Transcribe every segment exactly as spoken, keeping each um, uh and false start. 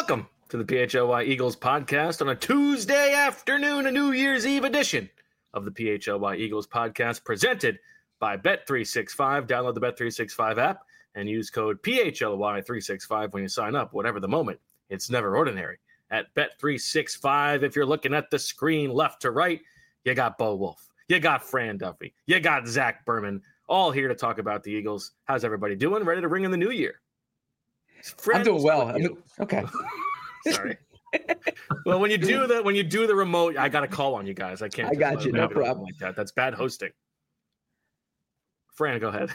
Welcome to the P H L Y Eagles podcast on a Tuesday afternoon, a New Year's Eve edition of the P H L Y Eagles podcast presented by Bet three sixty-five. Download the Bet three sixty-five app and use code P H L Y three sixty-five when you sign up. Whatever the moment, it's never ordinary at Bet three sixty-five. If you're looking at the screen left to right, you got Bo Wolf, you got Fran Duffy, you got Zach Berman, all here to talk about the Eagles. How's everybody doing? Ready to ring in the new year? Friends, I'm doing well. I'm, okay. Sorry. Well, when you do the when you do the remote, I got to call on you guys. I can't. I got you. No problem. Like that. That's bad hosting. Fran, go ahead.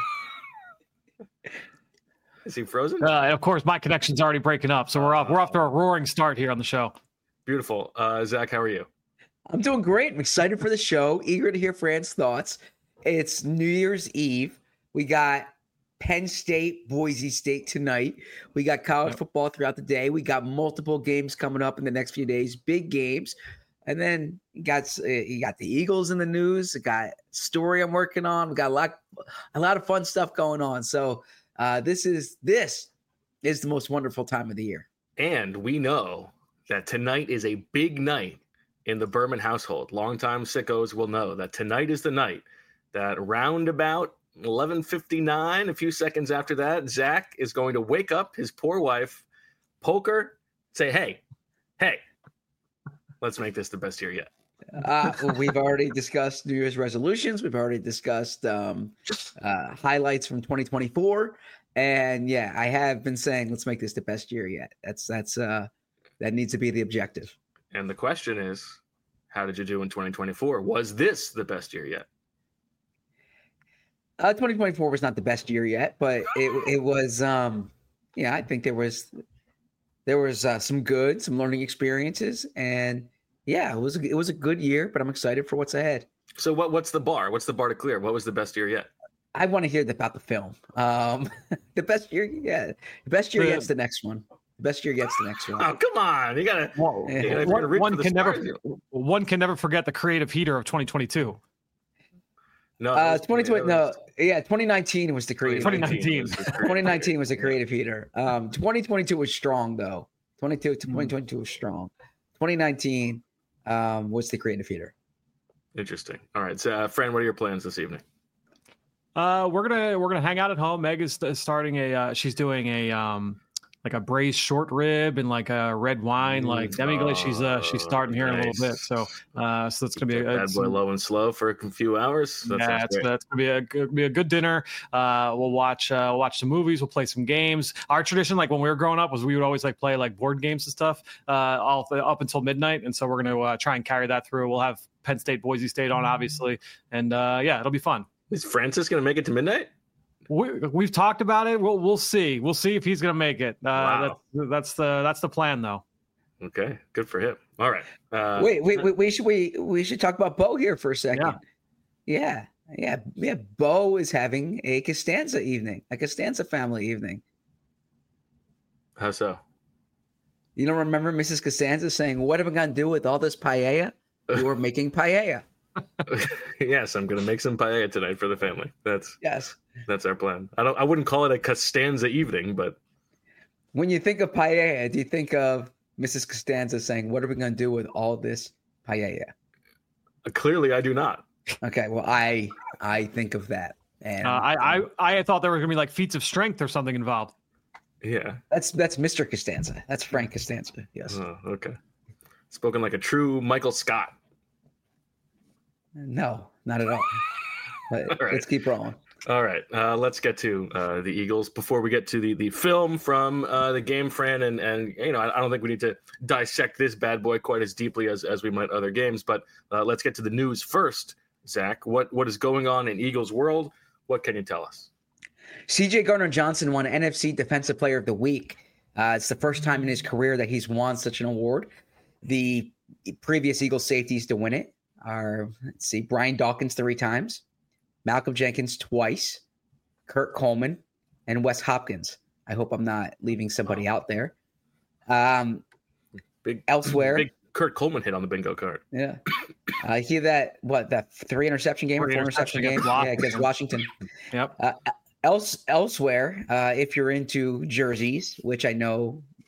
Is he frozen? Uh, of course, my connection's already breaking up, so we're off. We're off to a roaring start here on the show. Beautiful, uh, Zach. How are you? I'm doing great. I'm excited for the show. Eager to hear Fran's thoughts. It's New Year's Eve. We got Penn State, Boise State tonight. We got college football throughout the day. We got multiple games coming up in the next few days, big games. And then you got uh, you got the Eagles in the news. You got story I'm working on. We got a lot, a lot of fun stuff going on. So uh, this is this is the most wonderful time of the year. And we know that tonight is a big night in the Berman household. Longtime sickos will know that tonight is the night that roundabout eleven fifty-nine, a few seconds after that, Zach is going to wake up his poor wife, poke her, say, hey, hey, let's make this the best year yet. Uh, well, we've already discussed New Year's resolutions. We've already discussed um, uh, highlights from twenty twenty-four. And yeah, I have been saying, let's make this the best year yet. That's, that's, uh, that needs to be the objective. And the question is, how did you do in twenty twenty-four? Was this the best year yet? Uh, twenty twenty-four was not the best year yet, but it it was. Um, yeah, I think there was there was uh, some good, some learning experiences, and yeah, it was a, it was a good year. But I'm excited for what's ahead. So what what's the bar? What's the bar to clear? What was the best year yet? I want to hear about the film. Um, the best year, yeah, the best year gets the next one. The best year gets the next one. Oh, come on! You gotta. Whoa. You gotta one, one can stars. never one can never forget the creative heater of twenty twenty-two. No, uh, twenty twenty. No, yeah, twenty nineteen was the creative. twenty nineteen. twenty nineteen was a creative heater. Um, twenty twenty-two was strong though. twenty-two, twenty twenty-two was strong. twenty nineteen um, was the creative heater. Interesting. All right, so uh, Fran, what are your plans this evening? Uh, we're gonna we're gonna hang out at home. Meg is starting a. Uh, she's doing a um like a braised short rib and like a red wine. Like demi-glace. She's uh she's starting here nice. in a little bit. So uh so it's gonna be a bad boy low and slow for a few hours. That yeah, it's, that's gonna be a good be a good dinner. Uh, we'll watch uh we'll watch some movies. We'll play some games. Our tradition, like when we were growing up, was we would always like play like board games and stuff uh all up until midnight. And so we're gonna uh, try and carry that through. We'll have Penn State, Boise State on obviously, and uh yeah, it'll be fun. Is Francis gonna make it to midnight? We, we've talked about it. We'll we'll see. We'll see if he's going to make it. Uh, wow. that's, that's the that's the plan, though. Okay, good for him. All right. Uh, wait, wait, wait. We should we we should talk about Bo here for a second. Yeah, yeah, yeah. yeah. Bo is having a Costanza evening, a Costanza family evening. How so? You don't remember Missus Costanza saying, "What am I going to do with all this paella?" You were making paella. Yes, I'm going to make some paella tonight for the family. That's yes. That's our plan. I don't. I wouldn't call it a Costanza evening, but when you think of paella, do you think of Missus Costanza saying, "What are we going to do with all this paella?" Uh, clearly, I do not. Okay, well, I I think of that, and uh, I, I I thought there were going to be like feats of strength or something involved. Yeah, that's that's Mister Costanza. That's Frank Costanza. Yes. Oh, okay. Spoken like a true Michael Scott. No, not at all. But all right. Let's keep rolling. All right, uh, let's get to uh, the Eagles before we get to the, the film from uh, the game, Fran. And, and you know, I, I don't think we need to dissect this bad boy quite as deeply as, as we might other games. But uh, let's get to the news first. Zach, what, what is going on in Eagles world? What can you tell us? C J Gardner-Johnson won N F C Defensive Player of the Week. Uh, it's the first time in his career that he's won such an award. The previous Eagles safeties to win it are, let's see, Brian Dawkins three times, Malcolm Jenkins twice, Kurt Coleman, and Wes Hopkins. I hope I'm not leaving somebody out there. Um, big elsewhere, big Kurt Coleman hit on the bingo card. Yeah, I uh, hear that. What that three interception game three or four interception, interception game? Yeah, against Washington. Yep. Uh, else elsewhere, uh, if you're into jerseys, which I know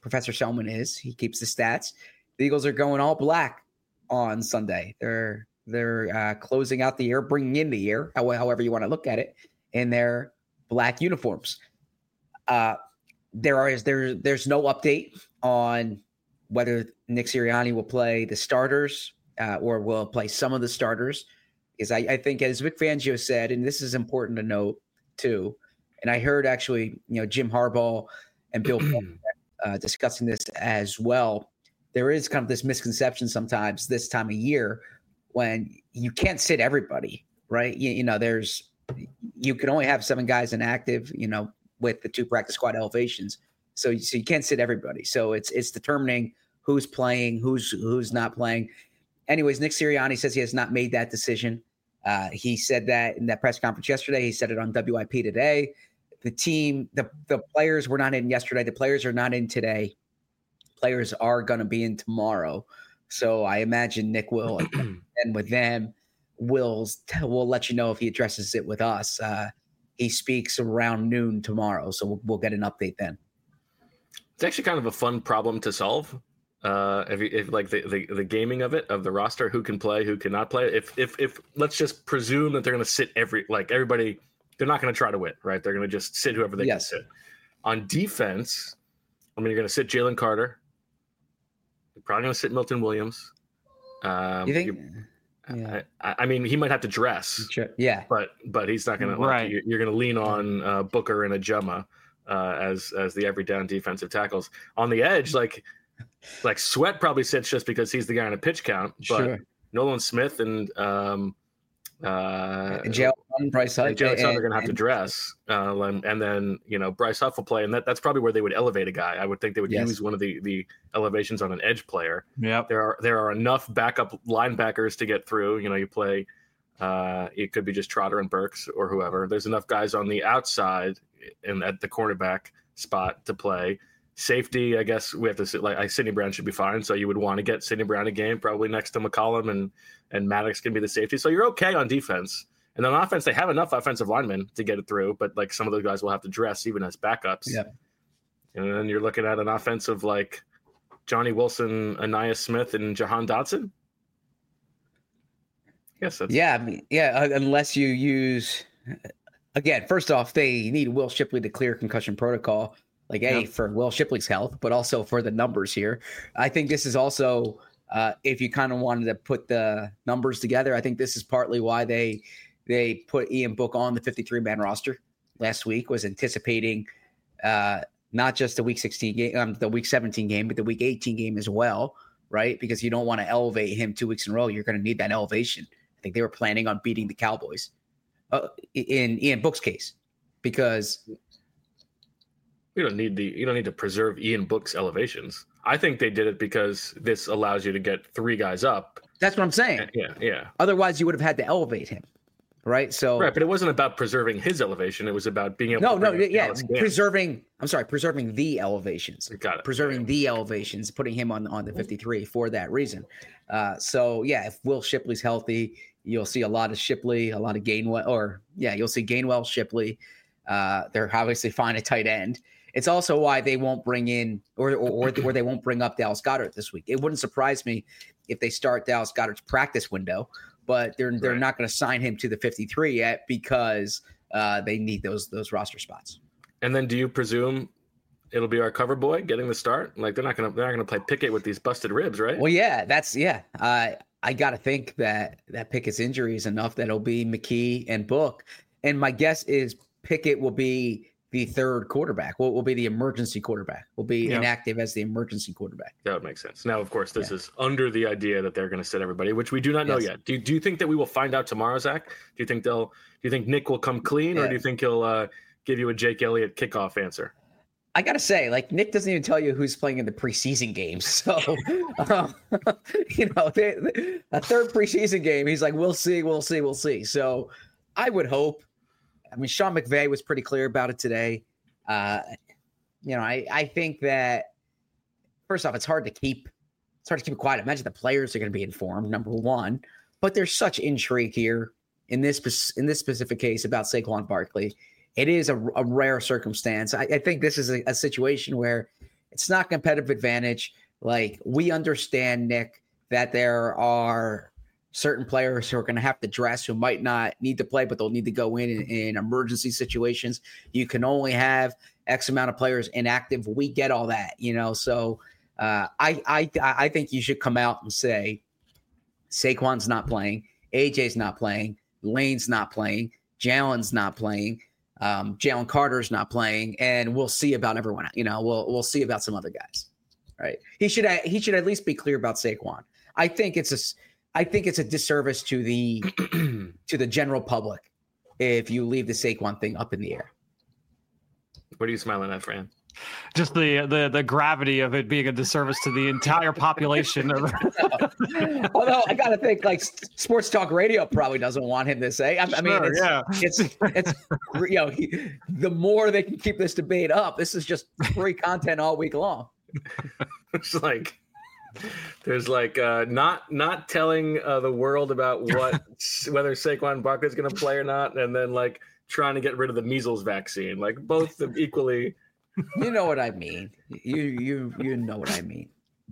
Professor Selman is. He keeps the stats. The Eagles are going all black on Sunday. They're they're uh, closing out the year, bringing in the year, however you want to look at it, in their black uniforms. Uh, there is there there's no update on whether Nick Sirianni will play the starters uh, or will play some of the starters. Because I, I think, as Vic Fangio said, and this is important to note too, and I heard actually, you know, Jim Harbaugh and Bill uh, discussing this as well. There is kind of this misconception sometimes this time of year when you can't sit everybody, right? You, you know, there's you can only have seven guys inactive, you know, with the two practice squad elevations. So, so you can't sit everybody. So it's it's determining who's playing, who's who's not playing. Anyways, Nick Sirianni says he has not made that decision. Uh, he said that in that press conference yesterday. He said it on W I P today. The team, the, the players were not in yesterday. The players are not in today. Players are going to be in tomorrow. So I imagine Nick will, and with them, will will let you know if he addresses it with us. Uh, he speaks around noon tomorrow, so we'll, we'll get an update then. It's actually kind of a fun problem to solve. Uh, if, if like the, the the gaming of it, of the roster, who can play, who cannot play. If if if let's just presume that they're going to sit every like everybody, they're not going to try to win, right? They're going to just sit whoever they yes. can sit. On defense, I mean, you're going to sit Jalen Carter. You're probably going to sit Milton Williams. Um, you think? Yeah. I, I mean, he might have to dress. Yeah, but but he's not going to. Right. Like, you're, you're going to lean on uh, Booker and Ajuma uh, as as the every down defensive tackles. On the edge, like. Like Sweat probably sits just because he's the guy on a pitch count, but sure. Nolan Smith and um, uh, and Jalen Bryce Huff, and Jalen Huff are going to have to dress, uh, and, and then you know Bryce Huff will play, and that, that's probably where they would elevate a guy. I would think they would yes. use one of the, the elevations on an edge player. Yeah, there are there are enough backup linebackers to get through. You know, you play. Uh, it could be just Trotter and Burks or whoever. There's enough guys on the outside and at the cornerback spot to play. Safety, I guess we have to sit like I, Sidney Brown should be fine. So you would want to get Sidney Brown a game, probably next to McCollum, and and Maddox can be the safety. So you're okay on defense. And on offense, they have enough offensive linemen to get it through, but like some of those guys will have to dress even as backups. Yeah. And then you're looking at an offensive like Johnny Wilson, Anaya Smith, and Jahan Dotson. Yes, that's yeah, I mean, yeah. Unless you use again, first off, they need Will Shipley to clear concussion protocol. Like, A, yep. for Will Shipley's health, but also for the numbers here. I think this is also, uh, if you kind of wanted to put the numbers together, I think this is partly why they they put Ian Book on the fifty-three man roster last week, was anticipating uh, not just the week sixteen game, um, the week seventeen game, but the week eighteen game as well, right? Because you don't want to elevate him two weeks in a row. You're going to need that elevation. I think they were planning on beating the Cowboys uh, in Ian Book's case, because – You don't need the you don't need to preserve Ian Book's elevations. I think they did it because this allows you to get three guys up. That's what I'm saying. Yeah, yeah. Otherwise, you would have had to elevate him, right? So right, but it wasn't about preserving his elevation. It was about being able. No, to no, bring yeah, Dallas preserving. I'm sorry, preserving the elevations. Got it. Preserving yeah. the elevations, putting him on on the fifty-three for that reason. Uh, so yeah, if Will Shipley's healthy, you'll see a lot of Shipley, a lot of Gainwell, or yeah, you'll see Gainwell, Shipley. Uh, they're obviously fine at tight end. It's also why they won't bring in or, or or or they won't bring up Dallas Goedert this week. It wouldn't surprise me if they start Dallas Goedert's practice window, but they're they're right. not going to sign him to the fifty-three yet because uh, they need those those roster spots. And then, do you presume it'll be our cover boy getting the start? Like they're not gonna they're not gonna play Pickett with these busted ribs, right? Well, yeah, that's yeah. Uh, I got to think that that Pickett's injury is enough that it'll be McKee and Book, and my guess is Pickett will be the third quarterback. Will will be the emergency quarterback. Will be yeah. inactive as the emergency quarterback. That would make sense. Now, of course, this yeah. is under the idea that they're going to sit everybody, which we do not know yes. yet. Do Do you think that we will find out tomorrow, Zach? Do you think they'll? Do you think Nick will come clean, yeah. or do you think he'll uh, give you a Jake Elliott kickoff answer? I gotta say, like Nick doesn't even tell you who's playing in the preseason games. So, um, you know, they, they, a third preseason game, he's like, "We'll see, we'll see, we'll see." So, I would hope. I mean, Sean McVay was pretty clear about it today. Uh, you know, I, I think that first off, it's hard to keep it's hard to keep it quiet. Imagine the players are going to be informed, number one. But there's such intrigue here in this in this specific case about Saquon Barkley. It is a, a rare circumstance. I, I think this is a, a situation where It's not competitive advantage. Like, we understand, Nick, that there are certain players who are going to have to dress who might not need to play, but they'll need to go in, in in emergency situations. You can only have X amount of players inactive. We get all that, you know. So uh, I I I think you should come out and say Saquon's not playing, A J's not playing, Lane's not playing, Jalen's not playing, um, Jalen Carter's not playing, and we'll see about everyone. You know, we'll we'll see about some other guys. Right? He should he should at least be clear about Saquon. I think it's a I think it's a disservice to the to the general public if you leave the Saquon thing up in the air. What are you smiling at, Fran? Just the the the gravity of it being a disservice to the entire population. Although I got to think, like, Sports Talk Radio probably doesn't want him to say. I, I mean, Sure, it's, yeah. it's it's you know, he, the more they can keep this debate up, this is just free content all week long. It's like there's like uh, not not telling uh, the world about what whether Saquon Barkley is going to play or not, and then like trying to get rid of the measles vaccine. Like both equally. You know what I mean. You you you know what I mean.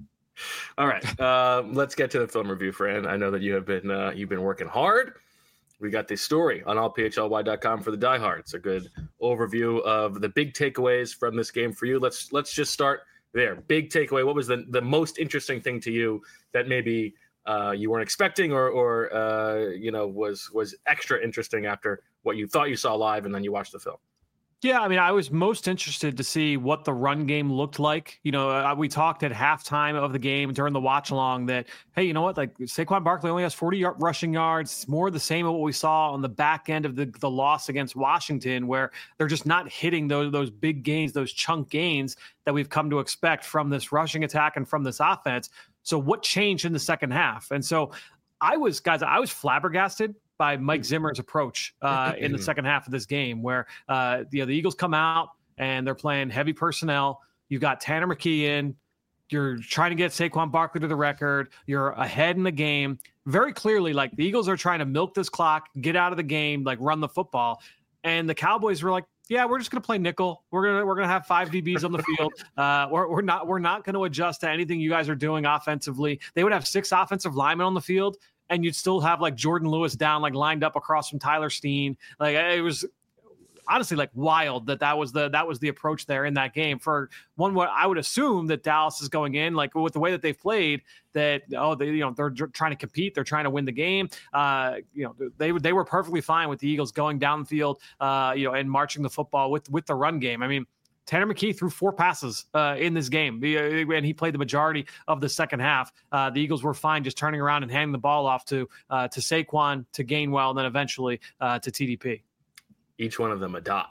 All right, uh, let's get to the film review, Fran. I know that you have been uh, you've been working hard. We got this story on all p h l y dot com for the diehards. A good overview of the big takeaways from this game for you. Let's let's just start there. Big takeaway. What was the, the most interesting thing to you that maybe uh, you weren't expecting or, or uh, you know, was was extra interesting after what you thought you saw live and then you watched the film? Yeah, I mean, I was most interested to see what the run game looked like. You know, uh, we talked at halftime of the game during the watch along that, hey, you know what? Like Saquon Barkley only has forty yard rushing yards. It's more the same of what we saw on the back end of the, the loss against Washington, where they're just not hitting those those big gains, those chunk gains that we've come to expect from this rushing attack and from this offense. So what changed in the second half? And so I was, guys, I was flabbergasted by Mike Zimmer's approach uh, in the second half of this game, where uh, you know, the Eagles come out and they're playing heavy personnel. You've got Tanner McKee in. You're trying to get Saquon Barkley to the record. You're ahead in the game. Very clearly, like the Eagles are trying to milk this clock, get out of the game, like run the football. And the Cowboys were like, yeah, we're just going to play nickel. We're going to we're going to have five D Bs on the field. Uh, we're, we're not we're not going to adjust to anything you guys are doing offensively. They would have six offensive linemen on the field, and you'd still have like Jordan Lewis down, like lined up across from Tyler Steen. Like it was honestly like wild that that was the that was the approach there in that game. For one, what I would assume that Dallas is going in like with the way that they've played, that oh they you know they're trying to compete, they're trying to win the game. Uh, you know they they were perfectly fine with the Eagles going down the field, uh, you know, and marching the football with with the run game. I mean, Tanner McKee threw four passes uh, in this game, and he played the majority of the second half. Uh, the Eagles were fine just turning around and handing the ball off to uh, to Saquon, to Gainwell, and then eventually uh, to T D P. Each one of them a dot.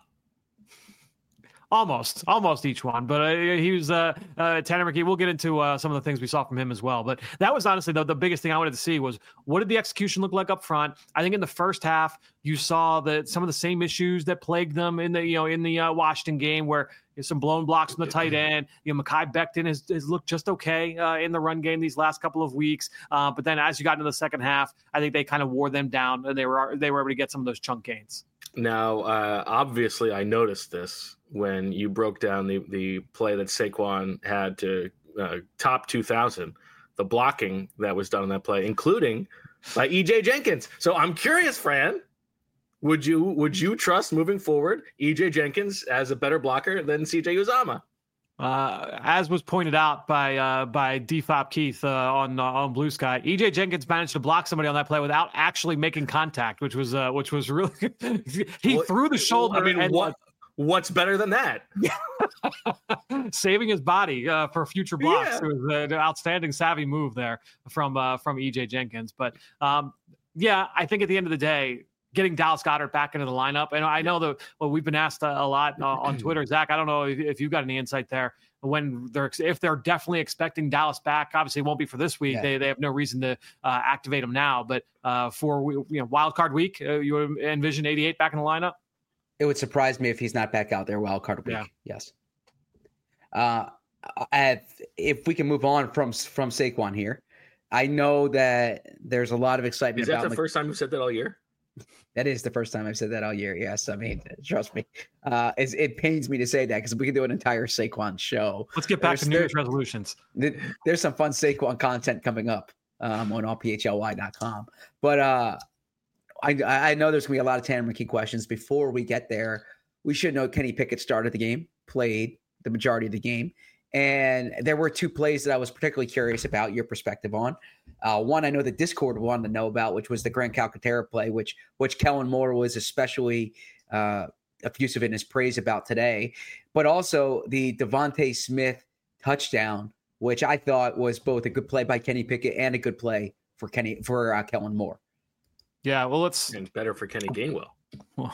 Almost, almost each one. But uh, he was uh, uh, Tanner McKee. We'll get into uh, some of the things we saw from him as well. But that was honestly the, the biggest thing I wanted to see was what did the execution look like up front? I think in the first half you saw that some of the same issues that plagued them in the you know in the uh, Washington game, where there's some blown blocks from the tight end. You know, Mekhi Becton has, has looked just okay uh, in the run game these last couple of weeks. Uh, but then as you got into the second half, I think they kind of wore them down, and they were they were able to get some of those chunk gains. Now, uh, obviously, I noticed this when you broke down the, the play that Saquon had to uh, top two thousand, the blocking that was done on that play, including by E J Jenkins. So I'm curious, Fran, would you would you trust moving forward E J Jenkins as a better blocker than C J Uzomah? Uh, as was pointed out by uh, by D F O P Keith uh, on uh, on Blue Sky, E J Jenkins managed to block somebody on that play without actually making contact, which was uh, which was really he well, threw the shoulder. I mean, and, what what's better than that? Saving his body uh, for future blocks. Yeah. It was an outstanding, savvy move there from uh, from E J Jenkins. But um, yeah, I think at the end of the day, getting Dallas Goedert back into the lineup. And I know that well, we've been asked a lot uh, on Twitter. Zach, I don't know if, if you've got any insight there when they're, if they're definitely expecting Dallas back. Obviously it won't be for this week. Yeah. They they have no reason to uh, activate him now, but uh, for, you know, wild card week, uh, you envision eighty-eight back in the lineup. It would surprise me if he's not back out there wild card week. Yeah. Yes. Uh, at, if we can move on from, from Saquon here, I know that there's a lot of excitement. Is that about the Mc- first time you said that all year? That is the first time I've said that all year. Yes, I mean, trust me. Uh, it's, it pains me to say that because we could do an entire Saquon show. Let's get back There's- to New Year's resolutions. There's some fun Saquon content coming up um, on all P H L Y dot com. But uh, I, I know there's going to be a lot of Tanner McKee questions. Before we get there, we should know Kenny Pickett started the game, played the majority of the game. And there were two plays that I was particularly curious about your perspective on. Uh, one, I know the Discord wanted to know about, which was the Grant Calcaterra play, which which Kellen Moore was especially uh, effusive in his praise about today. But also the Devontae Smith touchdown, which I thought was both a good play by Kenny Pickett and a good play for Kenny for uh, Kellen Moore. Yeah, well, let's And better for Kenny Gainwell. Well,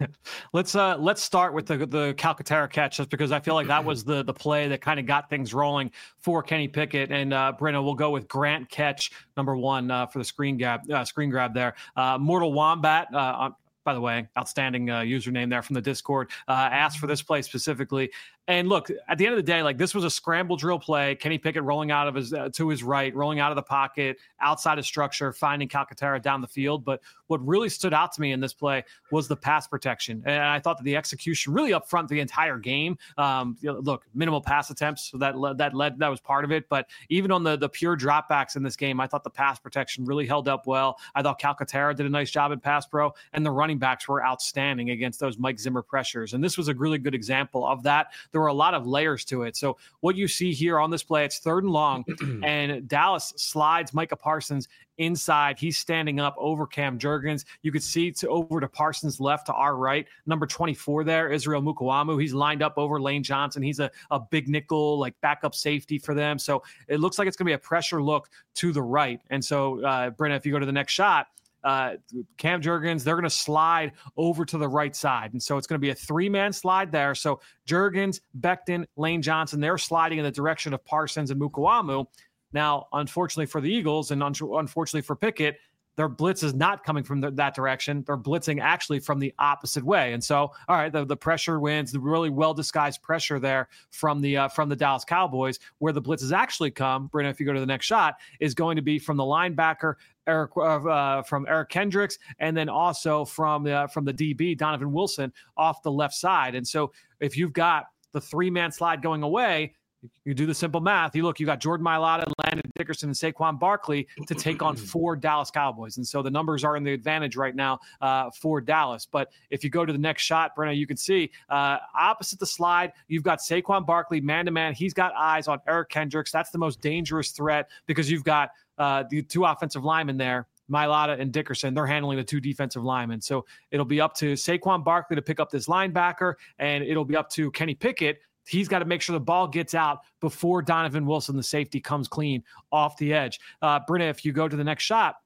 let's uh let's start with the the Calcaterra catch, just because I feel like that was the the play that kind of got things rolling for Kenny Pickett. And uh Brenna, we'll go with Grant catch number one uh, for the screen grab uh, screen grab there. Uh, Mortal Wombat. Uh, by the way, outstanding uh, username there from the Discord. Uh, asked for this play specifically. And look, at the end of the day, like this was a scramble drill play. Kenny Pickett rolling out of his uh, to his right, rolling out of the pocket, outside of structure, finding Calcaterra down the field. But what really stood out to me in this play was the pass protection, and I thought that the execution really up front the entire game. Um, you know, look, minimal pass attempts, so that led, that led that was part of it. But even on the the pure dropbacks in this game, I thought the pass protection really held up well. I thought Calcaterra did a nice job in pass pro, and the running backs were outstanding against those Mike Zimmer pressures. And this was a really good example of that. There were a lot of layers to it. So what you see here on this play, it's third and long, and Dallas slides Micah Parsons inside. He's standing up over Cam Jurgens. You could see to over to Parsons' left to our right. Number twenty-four there, Israel Mukuamu. He's lined up over Lane Johnson. He's a, a big nickel, like backup safety for them. So it looks like it's going to be a pressure look to the right. And so, uh, Brenna, if you go to the next shot, Uh, Cam Jurgens, they're going to slide over to the right side. And so it's going to be a three-man slide there. So Jurgens, Becton, Lane Johnson, they're sliding in the direction of Parsons and Mukuamu. Now, unfortunately for the Eagles and un- unfortunately for Pickett, their blitz is not coming from the, that direction. They're blitzing actually from the opposite way. And so, all right, the, the pressure wins, the really well-disguised pressure there from the uh, from the Dallas Cowboys. Where the blitzes actually come, Brenna, if you go to the next shot, is going to be from the linebacker, Eric uh, from Eric Kendricks, and then also from the uh, from the D B, Donovan Wilson, off the left side. And so if you've got the three-man slide going away, you do the simple math. You look, you got Jordan Mailata, Landon Dickerson, and Saquon Barkley to take on four Dallas Cowboys. And so the numbers are in the advantage right now uh, for Dallas. But if you go to the next shot, Brenna, you can see uh, opposite the slide, you've got Saquon Barkley, man-to-man. He's got eyes on Eric Kendricks. That's the most dangerous threat because you've got uh, the two offensive linemen there, Mailata and Dickerson. They're handling the two defensive linemen. So it'll be up to Saquon Barkley to pick up this linebacker, and it'll be up to Kenny Pickett. He's got to make sure the ball gets out before Donovan Wilson, the safety, comes clean off the edge. Uh, Brenna, if you go to the next shot,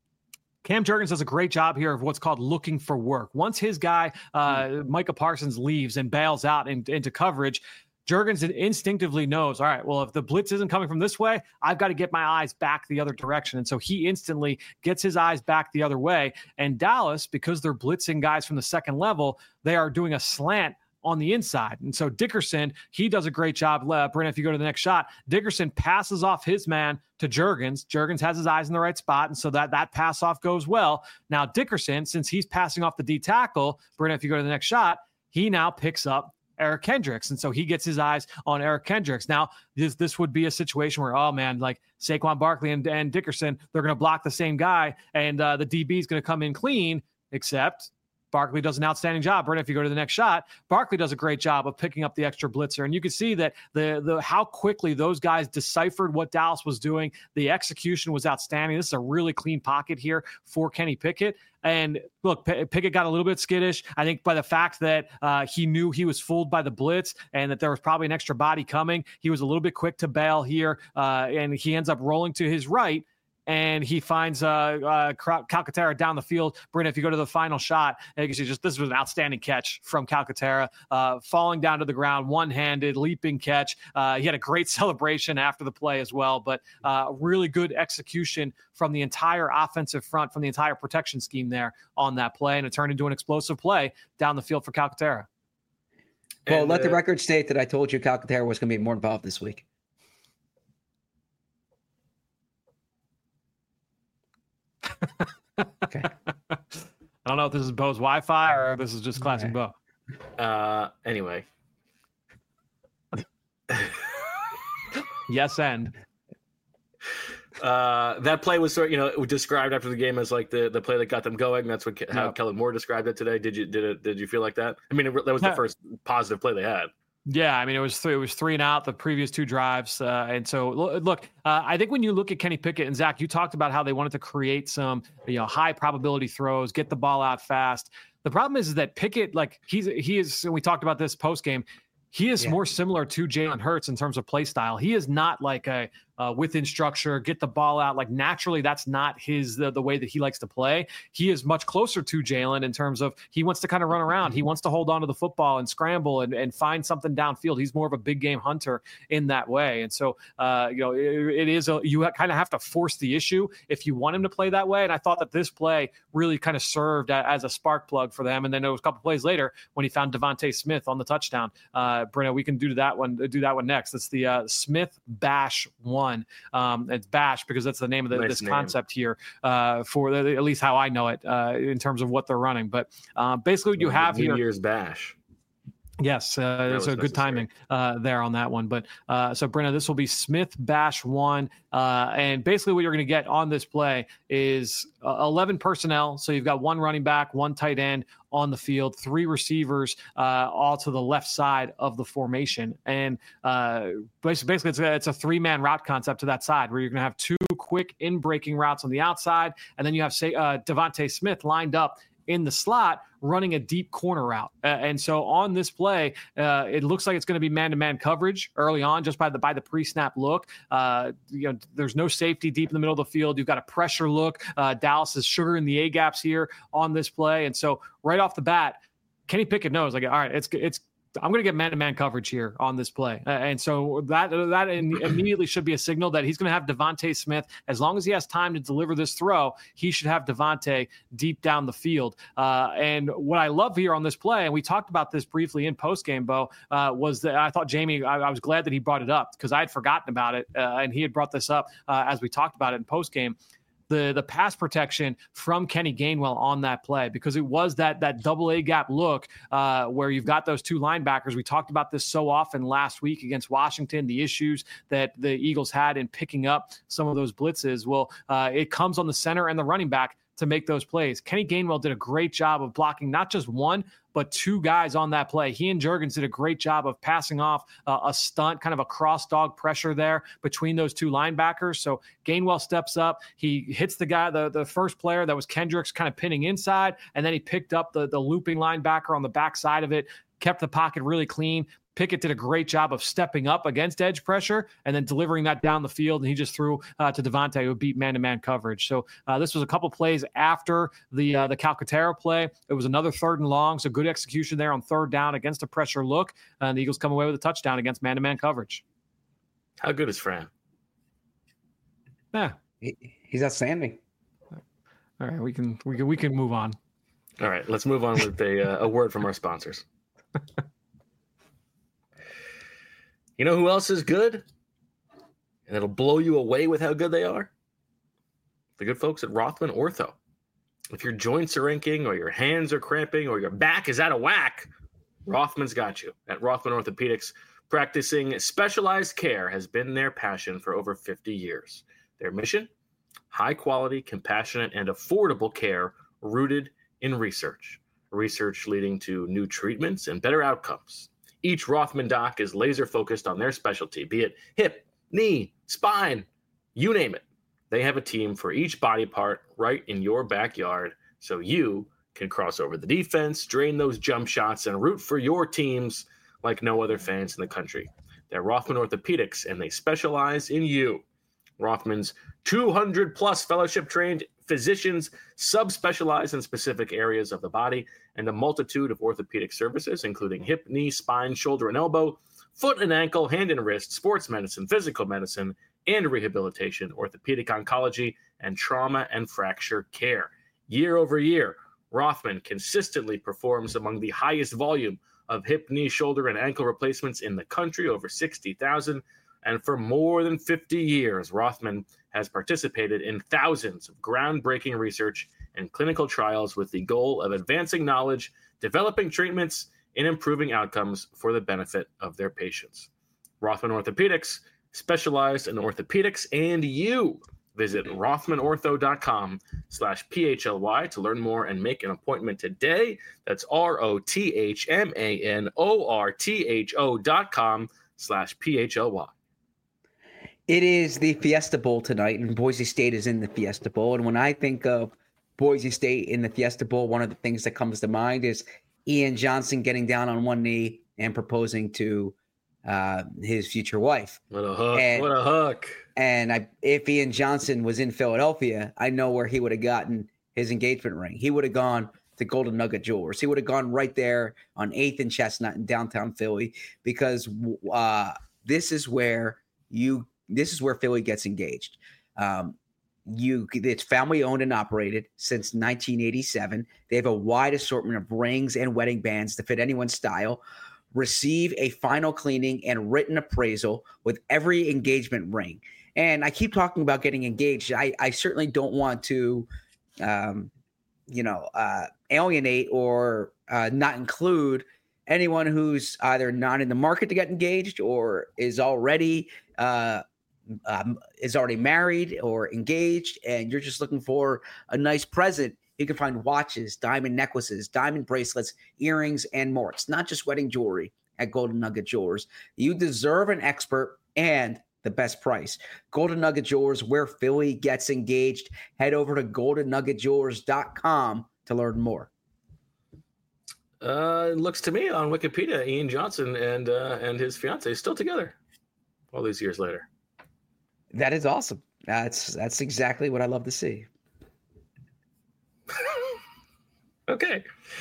Cam Jurgens does a great job here of what's called looking for work. Once his guy, uh, Micah Parsons, leaves and bails out in, into coverage, Jurgens instinctively knows, all right, well, if the blitz isn't coming from this way, I've got to get my eyes back the other direction. And so he instantly gets his eyes back the other way. And Dallas, because they're blitzing guys from the second level, they are doing a slant on the inside. And so Dickerson, he does a great job. Uh, Brenna, if you go to the next shot, Dickerson passes off his man to Jurgens. Jurgens has his eyes in the right spot, and so that, that pass off goes well. Now Dickerson, since he's passing off the D tackle, Brenna, if you go to the next shot, he now picks up Eric Kendricks. And so he gets his eyes on Eric Kendricks. Now, this this would be a situation where, oh man, like Saquon Barkley and, and Dickerson, they're going to block the same guy, and uh, the D B is going to come in clean, except Barkley does an outstanding job. Brenna, if you go to the next shot, Barkley does a great job of picking up the extra blitzer. And you can see that the the how quickly those guys deciphered what Dallas was doing. The execution was outstanding. This is a really clean pocket here for Kenny Pickett. And look, P- Pickett got a little bit skittish, I think, by the fact that uh, he knew he was fooled by the blitz and that there was probably an extra body coming. He was a little bit quick to bail here, uh, and he ends up rolling to his right. And he finds uh, uh, Calcaterra down the field. Brenna, if you go to the final shot, you can see just this was an outstanding catch from Calcaterra, uh, falling down to the ground, one-handed, leaping catch. Uh, he had a great celebration after the play as well, but uh, really good execution from the entire offensive front, from the entire protection scheme there on that play, and it turned into an explosive play down the field for Calcaterra. Well, And, let the uh, record state that I told you Calcaterra was going to be more involved this week. Okay. I don't know if this is Bo's Wi-Fi or if this is just classic Bo. Uh, anyway. Yes, and uh, that play was sort, you know, it was described after the game as like the, the play that got them going. That's what how yep. Kellen Moore described it today. Did you did it? Did you feel like that? I mean, it, that was the yeah. first positive play they had. Yeah, I mean, it was three, it was three and out the previous two drives. Uh, and so, look, uh, I think when you look at Kenny Pickett and Zach, you talked about how they wanted to create some, you know, high probability throws, get the ball out fast. The problem is, is that Pickett, like he's, he is, and we talked about this post game, he is yeah. more similar to Jalen Hurts in terms of play style. He is not like a uh, within structure, get the ball out. Like naturally, that's not his the, the way that he likes to play. He is much closer to Jalen in terms of he wants to kind of run around. He wants to hold on to the football and scramble and, and find something downfield. He's more of a big game hunter in that way. And so, uh, you know, it, it is a, you kind of have to force the issue if you want him to play that way. And I thought that this play really kind of served as a spark plug for them. And then there was a couple plays later when he found Devontae Smith on the touchdown. Uh, Brenna, we can do that one. Do that one next. It's the uh, Smith Bash one. Um, it's Bash because that's the name of the, nice this name. concept here uh, for the, at least how I know it uh, in terms of what they're running. But uh, basically, what you well, have New here. New Year's Bash. Yes, uh, it's a good timing uh, there on that one. But uh, so, Brenna, this will be Smith Bash one. Uh, and basically what you're going to get on this play is uh, eleven personnel. So you've got one running back, one tight end on the field, three receivers uh, all to the left side of the formation. And uh, basically it's a, it's a three-man route concept to that side where you're going to have two quick in-breaking routes on the outside. And then you have, say, uh, Devontae Smith lined up in the slot running a deep corner route. Uh, and so on this play, uh, it looks like it's going to be man-to-man coverage early on just by the by the pre-snap look. Uh, you know, there's no safety deep in the middle of the field. You've got a pressure look. Uh, Dallas is sugaring the A-gaps here on this play. And so right off the bat, Kenny Pickett knows, like, all right, it's it's I'm going to get man-to-man coverage here on this play. Uh, and so that that immediately should be a signal that he's going to have Devontae Smith. As long as he has time to deliver this throw, he should have Devontae deep down the field. Uh, and what I love here on this play, and we talked about this briefly in postgame, Bo, uh, was that I thought Jamie, I, I was glad that he brought it up because I had forgotten about it. Uh, and he had brought this up uh, as we talked about it in postgame. The, the pass protection from Kenny Gainwell on that play, because it was that that double A gap look uh, where you've got those two linebackers. We talked about this so often last week against Washington, the issues that the Eagles had in picking up some of those blitzes. Well, uh, it comes on the center and the running back to make those plays. Kenny Gainwell did a great job of blocking not just one, but two guys on that play. He and Juergens did a great job of passing off uh, a stunt, kind of a cross dog pressure there between those two linebackers. So Gainwell steps up. He hits the guy, the, the first player that was Kendricks kind of pinning inside, and then he picked up the, the looping linebacker on the backside of it, kept the pocket really clean. Pickett did a great job of stepping up against edge pressure and then delivering that down the field. And he just threw uh, to Devontae, who beat man-to-man coverage. So uh, this was a couple plays after the uh, the Calcaterra play. It was another third and long. So good execution there on third down against a pressure look. And the Eagles come away with a touchdown against man-to-man coverage. How good is Fran? Yeah, he, he's outstanding. All right, we can we can we can move on. All right, let's move on with a uh, a word from our sponsors. You know who else is good? And it'll blow you away with how good they are? The good folks at Rothman Ortho. If your joints are aching or your hands are cramping or your back is out of whack, Rothman's got you. At Rothman Orthopedics, practicing specialized care has been their passion for over fifty years. Their mission? High quality, compassionate, and affordable care rooted in research. Research leading to new treatments and better outcomes. Each Rothman doc is laser focused on their specialty, be it hip, knee, spine, you name it. They have a team for each body part right in your backyard so you can cross over the defense, drain those jump shots, and root for your teams like no other fans in the country. They're Rothman Orthopedics, and they specialize in you. Rothman's two hundred plus fellowship-trained physicians subspecialize in specific areas of the body and a multitude of orthopedic services, including hip, knee, spine, shoulder and elbow, foot and ankle, hand and wrist, sports medicine, physical medicine, and rehabilitation, orthopedic oncology, and trauma and fracture care. Year over year, Rothman consistently performs among the highest volume of hip, knee, shoulder, and ankle replacements in the country, over sixty thousand. And for more than fifty years, Rothman has participated in thousands of groundbreaking research and clinical trials with the goal of advancing knowledge, developing treatments, and improving outcomes for the benefit of their patients. Rothman Orthopedics, specialized in orthopedics and you. Visit rothmanortho.com slash PHLY to learn more and make an appointment today. That's R-O-T-H-M-A-N-O-R-T-H-O dot com slash P-H-L-Y. It is the Fiesta Bowl tonight, and Boise State is in the Fiesta Bowl. And when I think of Boise State in the Fiesta Bowl, one of the things that comes to mind is Ian Johnson getting down on one knee and proposing to uh, his future wife. What a hook. And, what a hook. And I, if Ian Johnson was in Philadelphia, I know where he would have gotten his engagement ring. He would have gone to Golden Nugget Jewelers. He would have gone right there on eighth and Chestnut in downtown Philly, because uh, this is where you this is where Philly gets engaged. Um, you it's family owned and operated since nineteen eighty-seven. They have a wide assortment of rings and wedding bands to fit anyone's style. Receive a final cleaning and written appraisal with every engagement ring. And I keep talking about getting engaged. I, I certainly don't want to, um, you know, uh, alienate or uh, not include anyone who's either not in the market to get engaged or is already uh, um, is already married or engaged, and you're just looking for a nice present. You can find watches, diamond necklaces, diamond bracelets, earrings, and more. It's not just wedding jewelry at Golden Nugget Jewelers. You deserve an expert and the best price. Golden Nugget Jewelers, where Philly gets engaged. Head over to golden nugget jewelers dot com to learn more. Uh, it looks to me on Wikipedia, Ian Johnson and uh, and his fiance is still together all these years later. That is awesome. That's that's exactly what I love to see. Okay.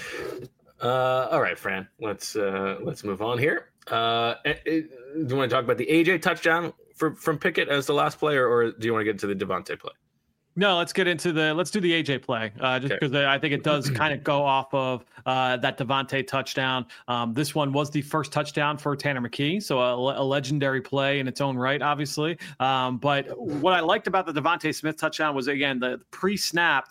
Uh, all right, Fran. Let's uh, let's move on here. Uh, it, it, do you want to talk about the A J touchdown for, from Pickett as the last player, or do you want to get into the Devontae play? No, let's get into the let's do the A J play, uh, just because okay. I think it does kind of go off of uh, that Devontae touchdown. Um, this one was the first touchdown for Tanner McKee, so a, a legendary play in its own right, obviously. Um, but what I liked about the Devontae Smith touchdown was, again, the pre-snap.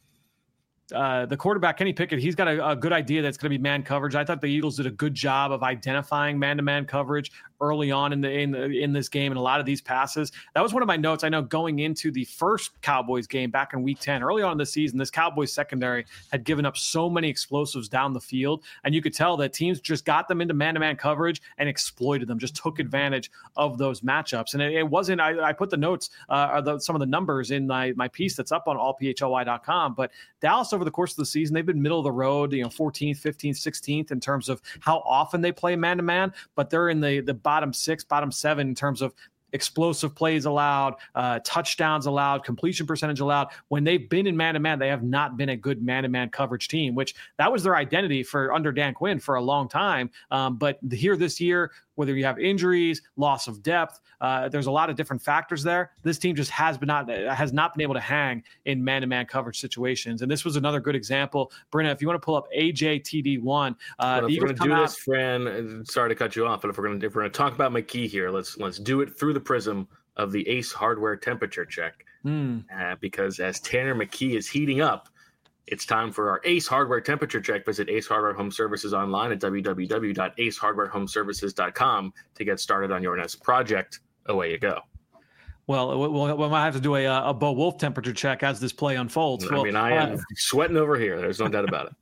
Uh, the quarterback, Kenny Pickett, he's got a, a good idea that's going to be man coverage. I thought the Eagles did a good job of identifying man-to-man coverage early on in the in the, in this game and a lot of these passes. That was one of my notes. I know going into the first Cowboys game back in week ten, early on in the season, this Cowboys secondary had given up so many explosives down the field, and you could tell that teams just got them into man-to-man coverage and exploited them, just took advantage of those matchups. And it, it wasn't, I, I put the notes, uh, or the, some of the numbers in my, my piece that's up on all P H L Y dot com, but Dallas over the course of the season, they've been middle of the road, you know, fourteenth, fifteenth, sixteenth in terms of how often they play man-to-man, but they're in the, the bottom six, bottom seven in terms of explosive plays allowed, uh, touchdowns allowed, completion percentage allowed. When they've been in man-to-man, they have not been a good man-to-man coverage team, which that was their identity for under Dan Quinn for a long time. Um, but here this year, whether you have injuries, loss of depth, uh, there's a lot of different factors there. This team just has been not has not been able to hang in man-to-man coverage situations. And this was another good example. Brenna, if you want to pull up A J T D one, uh, well, if we're going to do out- this, Fran, sorry to cut you off, but if we're going to if we're going to talk about McKee here, let's let's do it through the prism of the Ace Hardware temperature check, mm. uh, because as Tanner McKee is heating up, it's time for our Ace Hardware temperature check. Visit Ace Hardware Home Services online at w w w dot ace hardware home services dot com to get started on your next project. Away you go. Well, we'll, we might have to do a, a Bo Wolf temperature check as this play unfolds. I well, mean, I am uh, sweating over here. There's no doubt about it.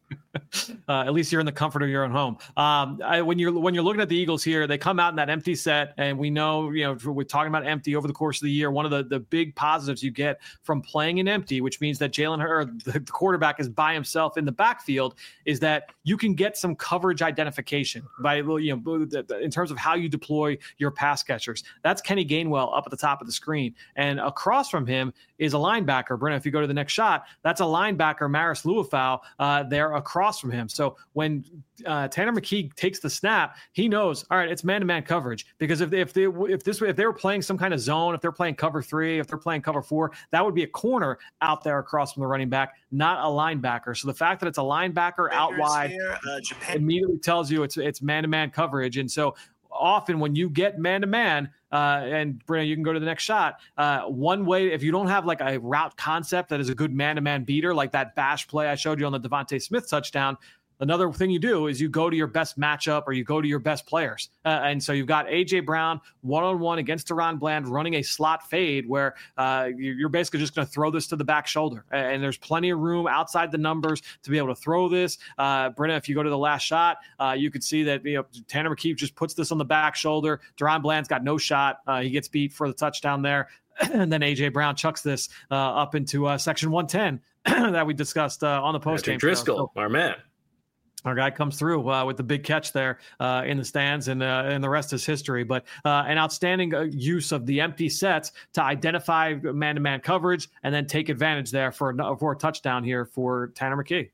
Uh, at least you're in the comfort of your own home. Um, I, when you're when you're looking at the Eagles here, they come out in that empty set, and we know, you know, we're talking about empty over the course of the year. One of the, the big positives you get from playing in empty, which means that Jalen Hurts, the quarterback, is by himself in the backfield, is that you can get some coverage identification by, you know, in terms of how you deploy your pass catchers. That's Kenny Gainwell up at the top of the screen, and across from him is a linebacker. Brenna, if you go to the next shot, that's a linebacker, Maris Luafau, uh, there across from him. So when uh, Tanner McKee takes the snap, he knows, all right, it's man-to-man coverage. Because if they, if they if this if they were playing some kind of zone, if they're playing cover three, if they're playing cover four, that would be a corner out there across from the running back, not a linebacker. So the fact that it's a linebacker out wide here, uh, Japan- immediately tells you it's it's man-to-man coverage. And so often when you get man to man, uh, and Brenna, you can go to the next shot. Uh, one way, if you don't have like a route concept that is a good man to man beater, like that bash play I showed you on the Devontae Smith touchdown. Another thing you do is you go to your best matchup or you go to your best players. Uh, and so you've got A J Brown one-on-one against DaRon Bland running a slot fade where uh, you're basically just going to throw this to the back shoulder. And there's plenty of room outside the numbers to be able to throw this. Uh, Brenna, if you go to the last shot, uh, you could see that you know Tanner McKee just puts this on the back shoulder. DaRon Bland's got no shot. Uh, he gets beat for the touchdown there. And then A J Brown chucks this uh, up into uh, section one ten that we discussed uh, on the postgame. Driscoll, so, our man. Our guy comes through uh, with the big catch there uh, in the stands, and uh, and the rest is history. But uh, an outstanding uh, use of the empty sets to identify man-to-man coverage and then take advantage there for a, for a touchdown here for Tanner McKee.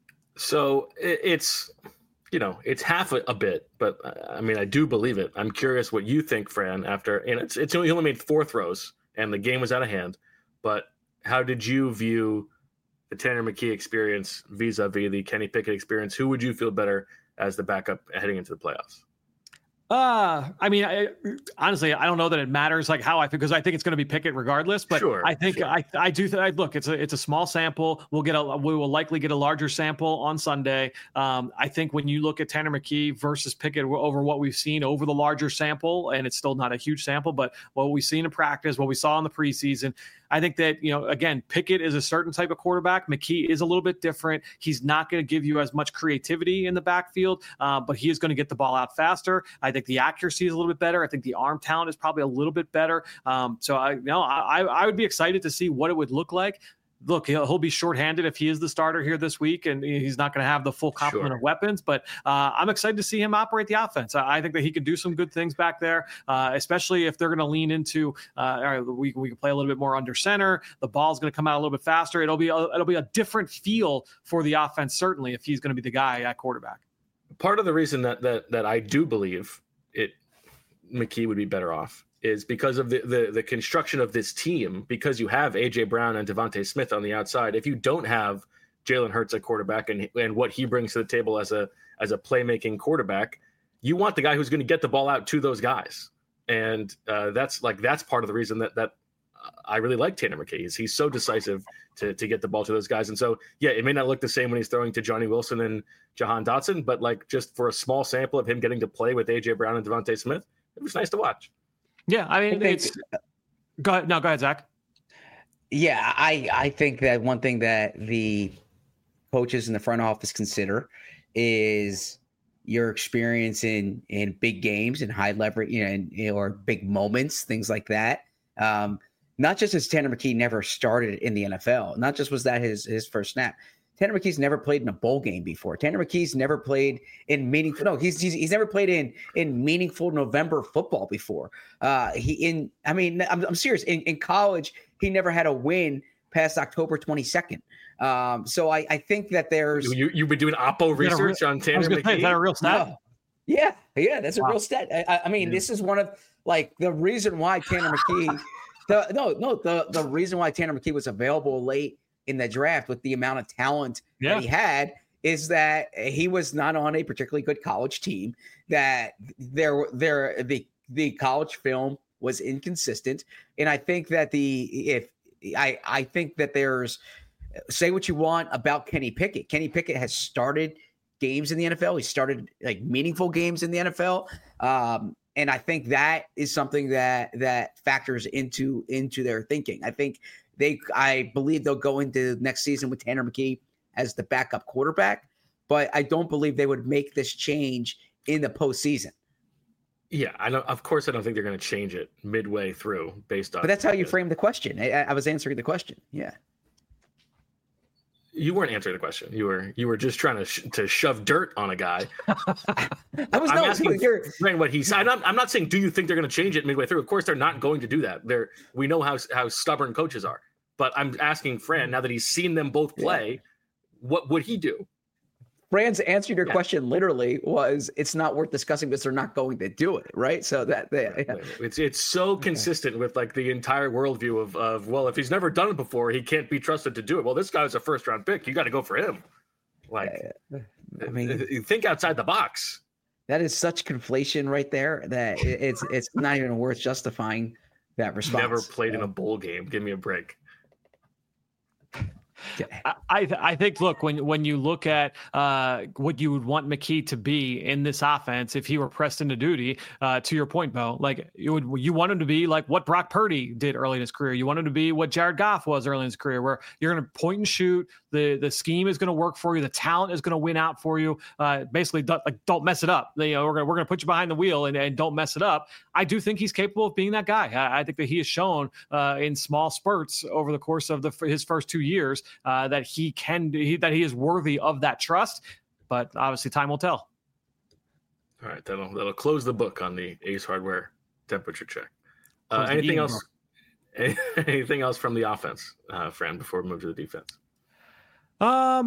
So it's, you know, it's half a, a bit, but I mean, I do believe it. I'm curious what you think, Fran, after, and it's, it's only, he only made four throws and the game was out of hand, but how did you view the Tanner McKee experience vis-a-vis the Kenny Pickett experience? Who would you feel better as the backup heading into the playoffs? Uh, I mean, I, honestly, I don't know that it matters like how I think, because I think it's going to be Pickett regardless. But sure, I think sure. I I do th- I, look. It's a it's a small sample. We'll get a we will likely get a larger sample on Sunday. Um, I think when you look at Tanner McKee versus Pickett over what we've seen over the larger sample, and it's still not a huge sample, but what we've seen in practice, what we saw in the preseason. I think that, you know, again, Pickett is a certain type of quarterback. McKee is a little bit different. He's not going to give you as much creativity in the backfield, uh, but he is going to get the ball out faster. I think the accuracy is a little bit better. I think the arm talent is probably a little bit better. Um, so I, you know, I, I would be excited to see what it would look like. Look, he'll, he'll be shorthanded if he is the starter here this week, and he's not going to have the full complement sure. of weapons. But uh, I'm excited to see him operate the offense. I, I think that he can do some good things back there, uh, especially if they're going to lean into. Uh, all right, we we can play a little bit more under center. The ball's going to come out a little bit faster. It'll be a, it'll be a different feel for the offense, certainly, if he's going to be the guy at quarterback. Part of the reason that that that I do believe it, McKee would be better off, is because of the, the the construction of this team, because you have A J Brown and Devontae Smith on the outside. If you don't have Jalen Hurts at quarterback and and what he brings to the table as a as a playmaking quarterback, you want the guy who's going to get the ball out to those guys. And uh, that's like that's part of the reason that that I really like Tanner McKee. Is he's so decisive to to get the ball to those guys. And so yeah, it may not look the same when he's throwing to Johnny Wilson and Jahan Dotson, but like just for a small sample of him getting to play with A J Brown and Devontae Smith, it was nice to watch. Yeah, I mean, I think, it's go ahead. No, go ahead, Zach. Yeah, I, I think that one thing that the coaches in the front office consider is your experience in in big games and high leverage, you know, and, or big moments, things like that. Um, not just as Tanner McKee never started in the N F L, not just was that his his first snap. Tanner McKee's never played in a bowl game before. Tanner McKee's never played in meaningful. No, he's he's, he's never played in in meaningful November football before. Uh, he in. I mean, I'm, I'm serious. In, in college, he never had a win past October twenty-second. Um, so I, I think that there's you you've been doing Oppo research real, on Tanner McKee. Say, is that a real stat? No. Yeah, yeah, that's a wow. real stat. I, I mean, yeah. This is one of like the reason why Tanner McKee. the no no the the reason why Tanner McKee was available late in the draft with the amount of talent yeah. that he had is that he was not on a particularly good college team, that there, there, the, the college film was inconsistent. And I think that the, if I, I think that there's, say what you want about Kenny Pickett. Kenny Pickett has started games in the N F L. He started like meaningful games in the N F L. Um, and I think that is something that, that factors into, into their thinking. I think, They, I believe they'll go into next season with Tanner McKee as the backup quarterback, but I don't believe they would make this change in the postseason. Yeah, I know. Of course, I don't think they're going to change it midway through based on. But that's how you framed the question. I, I was answering the question. Yeah. You weren't answering the question. You were you were just trying to sh- to shove dirt on a guy. I was I'm no, asking you're, what he said. I'm not, I'm not saying, do you think they're going to change it midway through? Of course, they're not going to do that. They're we know how how stubborn coaches are. But I'm asking Fran, now that he's seen them both play, yeah. what would he do? Fran's answer to your yeah. question literally was, it's not worth discussing because they're not going to do it, right? So that they, yeah. it's it's so consistent with like the entire worldview of of well, if he's never done it before, he can't be trusted to do it. Well, this guy's a first round pick. You got to go for him. Like, yeah, yeah. I mean, think outside the box. that is such conflation right there that it, it's it's not even worth justifying that response. Never played so. in a bowl game. Give me a break. I I, th- I think look when when you look at uh, what you would want McKee to be in this offense if he were pressed into duty. Uh, to your point, Bo, like you would you want him to be like what Brock Purdy did early in his career. You want him to be what Jared Goff was early in his career, where you're going to point and shoot. The the scheme is going to work for you. The talent is going to win out for you. Uh, basically, don't, like don't mess it up. You know, we're going we're going to put you behind the wheel and, and don't mess it up. I do think he's capable of being that guy. I, I think that he has shown uh, in small spurts over the course of the his first two years uh, that he can he, that he is worthy of that trust. But obviously, time will tell. All right, that'll that'll close the book on the Ace Hardware temperature check. Uh, anything else? Book. Anything else from the offense, uh, Fran? Before we move to the defense. Um,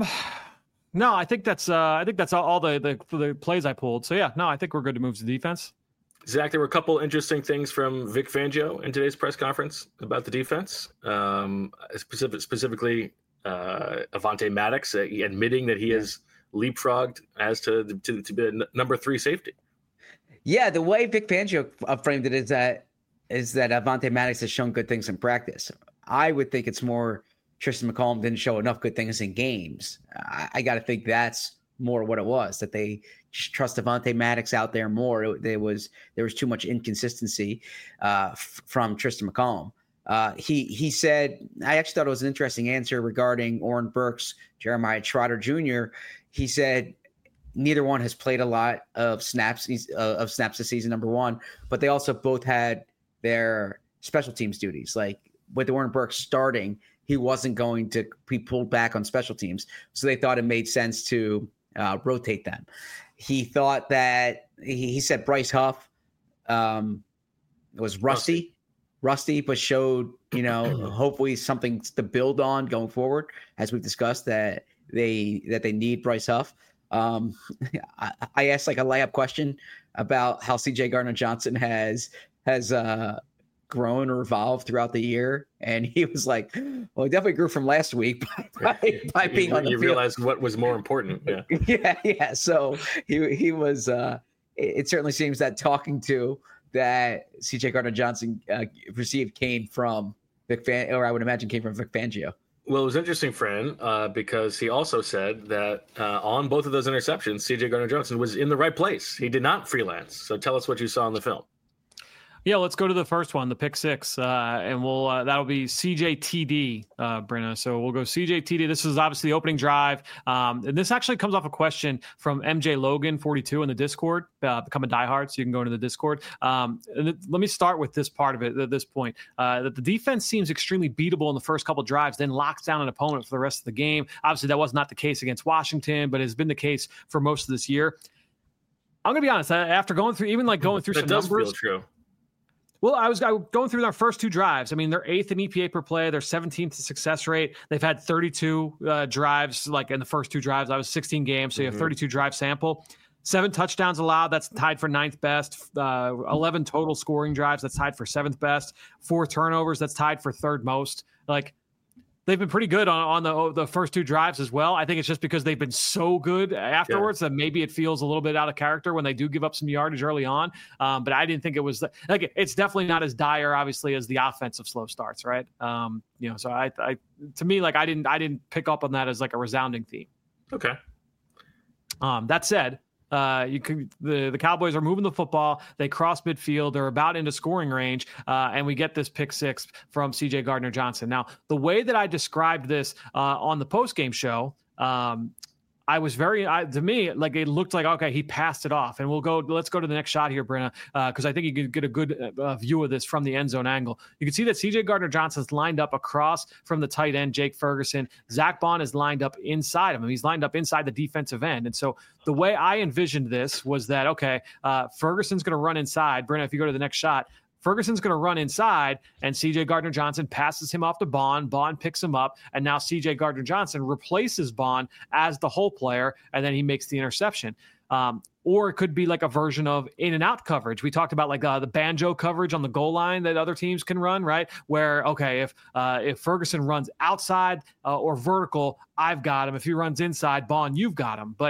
no, I think that's uh, I think that's all, all the, the the plays I pulled. So yeah, no, I think we're good to move to defense. Zach, there were a couple interesting things from Vic Fangio in today's press conference about the defense. Um, specific, specifically, uh, Avonte Maddox uh, admitting that he has leapfrogged as to to, to be a n- number three safety. Yeah, the way Vic Fangio framed it is that is that Avonte Maddox has shown good things in practice. I would think it's more Tristan McCollum didn't show enough good things in games. I, I got to think that's more what it was, that they just trust Avonte Maddox out there more. It, there was there was too much inconsistency uh, f- from Tristan McCollum. Uh, he he said, I actually thought it was an interesting answer regarding Oren Burks, Jeremiah Trotter Junior He said neither one has played a lot of snaps uh, of snaps this season, number one, but they also both had their special teams duties. Like with Oren Burks starting, he wasn't going to be pulled back on special teams. So they thought it made sense to uh, rotate them. He thought that he, he said Bryce Huff um, was rusty, rusty, but showed, you know, hopefully something to build on going forward. As we've discussed, that they, that they need Bryce Huff. Um, I, I asked like a layup question about how C J Gardner-Johnson has, has, uh, grown or evolved throughout the year, and he was like, well, he definitely grew from last week by, by, by being you, on the you field. realized what was more important. Yeah. yeah. Yeah. So he, he was, uh, it, it certainly seems that talking to that C J Gardner-Johnson uh, received came from Vic Fan, or I would imagine came from Vic Fangio. Well, it was interesting, Fran, uh, because he also said that uh, on both of those interceptions, C J Gardner-Johnson was in the right place. He did not freelance. So tell us what you saw in the film. Yeah, let's go to the first one, the pick six, uh, and we'll uh, that'll be C J T D, uh, Brenna. So we'll go C J T D. This is obviously the opening drive, um, and this actually comes off a question from M J Logan forty-two in the Discord. Uh, become a diehard, so you can go into the Discord. Um, and th- let me start with this part of it at this point. Uh, that the defense seems extremely beatable in the first couple drives, then locks down an opponent for the rest of the game. Obviously, that was not the case against Washington, but has been the case for most of this year. I'm gonna be honest. After going through, even like going through that some does numbers, feel true. Well, I was, I was going through their first two drives. I mean, they're eighth in E P A per play. They're seventeenth in success rate. They've had thirty-two uh, drives, like in the first two drives. I was sixteen games, so you have Mm-hmm. thirty-two drive sample. Seven touchdowns allowed. That's tied for ninth best. Uh, eleven total scoring drives. That's tied for seventh best. Four turnovers. That's tied for third most. Like, they've been pretty good on, on the the first two drives as well. I think it's just because they've been so good afterwards yeah. that maybe it feels a little bit out of character when they do give up some yardage early on. Um, but I didn't think it was like it's definitely not as dire, obviously, as the offensive slow starts, right? Um, you know, so I, I to me, like I didn't I didn't pick up on that as like a resounding theme. Okay. Um, that said. Uh, you can the, the Cowboys are moving the football. They cross midfield. They're about into scoring range. Uh, and we get this pick six from C J Gardner-Johnson. Now, the way that I described this uh, on the postgame show, um, I was very, I, to me, like it looked like, okay, he passed it off. And we'll go, let's go to the next shot here, Brenna, because uh, I think you can get a good uh, view of this from the end zone angle. You can see that C J Gardner-Johnson's lined up across from the tight end, Jake Ferguson. Zach Bond is lined up inside of him. He's lined up inside the defensive end. And so the way I envisioned this was that, okay, uh, Ferguson's going to run inside. Brenna, if you go to the next shot, Ferguson's going to run inside, and C J Gardner-Johnson passes him off to Bond. Bond picks him up, and now C J Gardner-Johnson replaces Bond as the hole player, and then he makes the interception. Um, or it could be like a version of in and out coverage. We talked about like uh, the banjo coverage on the goal line that other teams can run, right? Where, okay, if uh, if Ferguson runs outside uh, or vertical, I've got him. If he runs inside, Bond, you've got him. But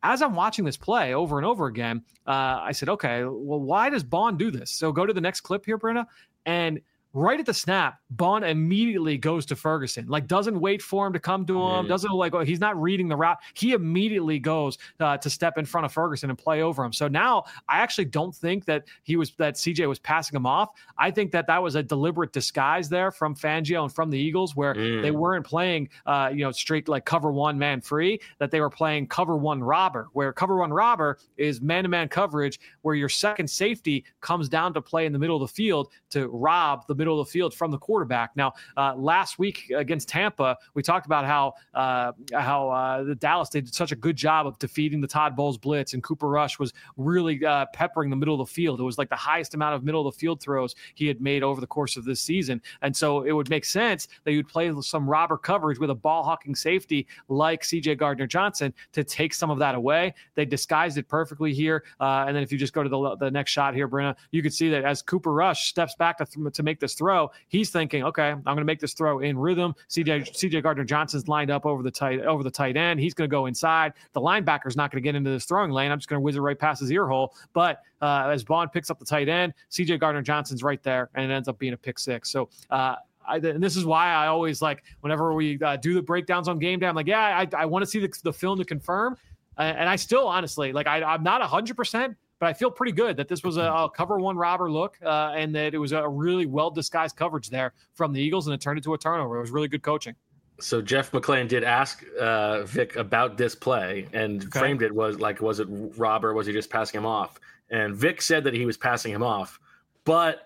as I'm watching this play over and over again, uh, I said, okay, well, why does Bond do this? So go to the next clip here, Brenna, and right at the snap, Bond immediately goes to Ferguson, like doesn't wait for him to come to him, mm. doesn't like, oh, he's not reading the route. He immediately goes uh, to step in front of Ferguson and play over him. So now I actually don't think that he was, that C J was passing him off. I think that that was a deliberate disguise there from Fangio and from the Eagles, where mm. they weren't playing, uh, you know, straight like cover one man free, that they were playing cover one robber, where cover one robber is man-to-man coverage, where your second safety comes down to play in the middle of the field to rob the middle of the field from the quarterback. Now, uh, last week against Tampa, we talked about how uh, how uh, the Dallas did such a good job of defeating the Todd Bowles blitz, and Cooper Rush was really uh, peppering the middle of the field. It was like the highest amount of middle of the field throws he had made over the course of this season. And so it would make sense that you'd play some robber coverage with a ball hawking safety like C J Gardner-Johnson to take some of that away. They disguised it perfectly here. Uh, and then if you just go to the, the next shot here, Brenna, you could see that as Cooper Rush steps back to, th- to make this throw, he's thinking, okay, I'm going to make this throw in rhythm. C J C J Gardner-Johnson's lined up over the tight over the tight end. He's going to go inside. The linebacker's not going to get into this throwing lane. I'm just going to whiz it right past his ear hole. But uh, as Bond picks up the tight end, C J Gardner-Johnson's right there, and it ends up being a pick six. So uh, I, and this is why I always like whenever we uh, do the breakdowns on game day, I'm like, yeah, I, I want to see the, the film to confirm. Uh, and I still honestly like I, I'm not one hundred percent. But I feel pretty good that this was a, a cover one robber look uh, and that it was a really well-disguised coverage there from the Eagles, and it turned into a turnover. It was really good coaching. So Jeff McClain did ask uh, Vic about this play and okay. framed it was like, was it robber? Was he just passing him off? And Vic said that he was passing him off, but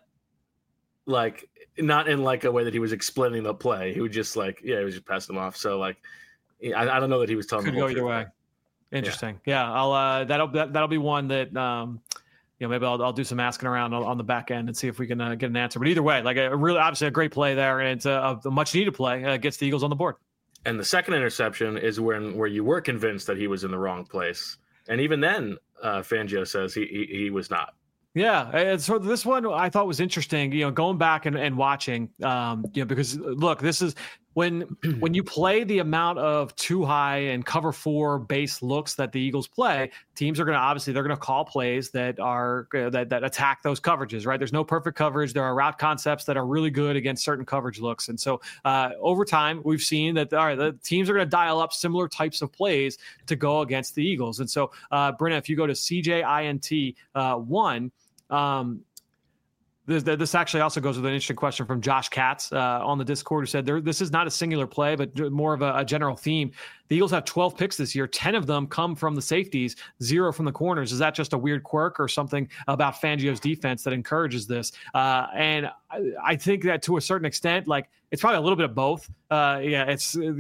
like not in like a way that he was explaining the play. He was just like, yeah, he was just passing him off. So like, I, I don't know that he was telling Could the whole go either way. Thing. Interesting. Yeah. yeah I'll, uh, that'll, that, that'll be one that, um, you know, maybe I'll, I'll do some asking around on, on the back end and see if we can uh, get an answer. But either way, like a really, obviously a great play there, and it's a, a much needed play. Uh, gets the Eagles on the board. And the second interception is when, where you were convinced that he was in the wrong place. And even then, uh, Fangio says he, he, he was not. Yeah, and so this one I thought was interesting, you know, going back and, and watching, um, you know, because look, this is when when you play the amount of too high and cover four base looks that the Eagles play, teams are going to obviously they're going to call plays that are uh, that that attack those coverages, right? There's no perfect coverage. There are route concepts that are really good against certain coverage looks, and so uh, over time we've seen that all right, the teams are going to dial up similar types of plays to go against the Eagles. And so, uh, Brenna, if you go to C J I N T uh, one. Um, this, this actually also goes with an interesting question from Josh Katz uh, on the Discord, who said there, this is not a singular play, but more of a, a general theme. The Eagles have twelve picks this year. ten of them come from the safeties, zero from the corners. Is that just a weird quirk or something about Fangio's defense that encourages this? Uh, and I, I think that to a certain extent, like it's probably a little bit of both. Uh, yeah, it's uh,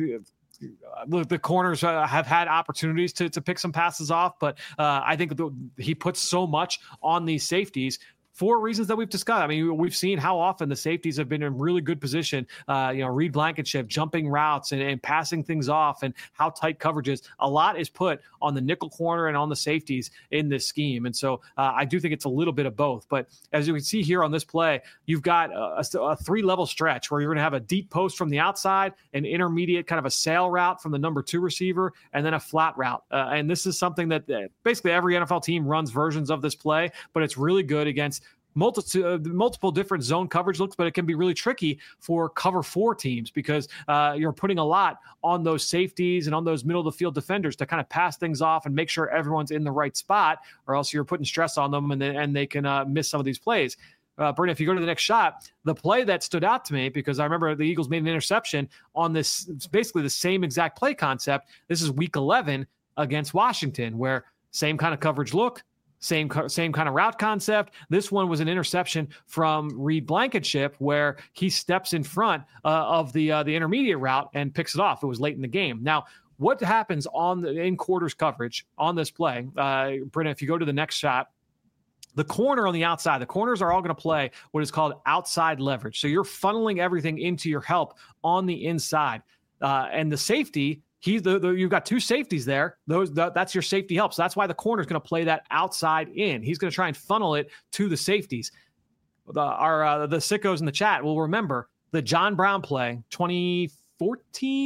the corners uh, have had opportunities to, to pick some passes off, but uh, I think the, he puts so much on these safeties for reasons that we've discussed. I mean, we've seen how often the safeties have been in really good position, uh, you know, Reed Blankenship, jumping routes and, and passing things off, and how tight coverage is. A lot is put on the nickel corner and on the safeties in this scheme. And so uh, I do think it's a little bit of both. But as you can see here on this play, you've got a, a three-level stretch where you're going to have a deep post from the outside, an intermediate kind of a sail route from the number two receiver, and then a flat route. Uh, and this is something that uh, basically every N F L team runs versions of this play, but it's really good against multiple, uh, multiple different zone coverage looks, but it can be really tricky for cover four teams because uh, you're putting a lot on those safeties and on those middle of the field defenders to kind of pass things off and make sure everyone's in the right spot, or else you're putting stress on them and, they, and they can uh, miss some of these plays. Uh, Brent, if you go to the next shot, the play that stood out to me, because I remember the Eagles made an interception on this, it's basically the same exact play concept. This is week eleven against Washington, where same kind of coverage look, Same same kind of route concept. This one was an interception from Reed Blankenship, where he steps in front uh, of the uh, the intermediate route and picks it off. It was late in the game. Now, what happens on the in quarters coverage on this play? Uh, Brenna, if you go to the next shot, the corner on the outside, the corners are all going to play what is called outside leverage. So you're funneling everything into your help on the inside, uh, and the safety. He's the, the, you've got two safeties there. Those the, that's your safety help. So that's why the corner is going to play that outside in. He's going to try and funnel it to the safeties. The, our uh, the sickos in the chat will remember the John Brown play, twenty fourteen,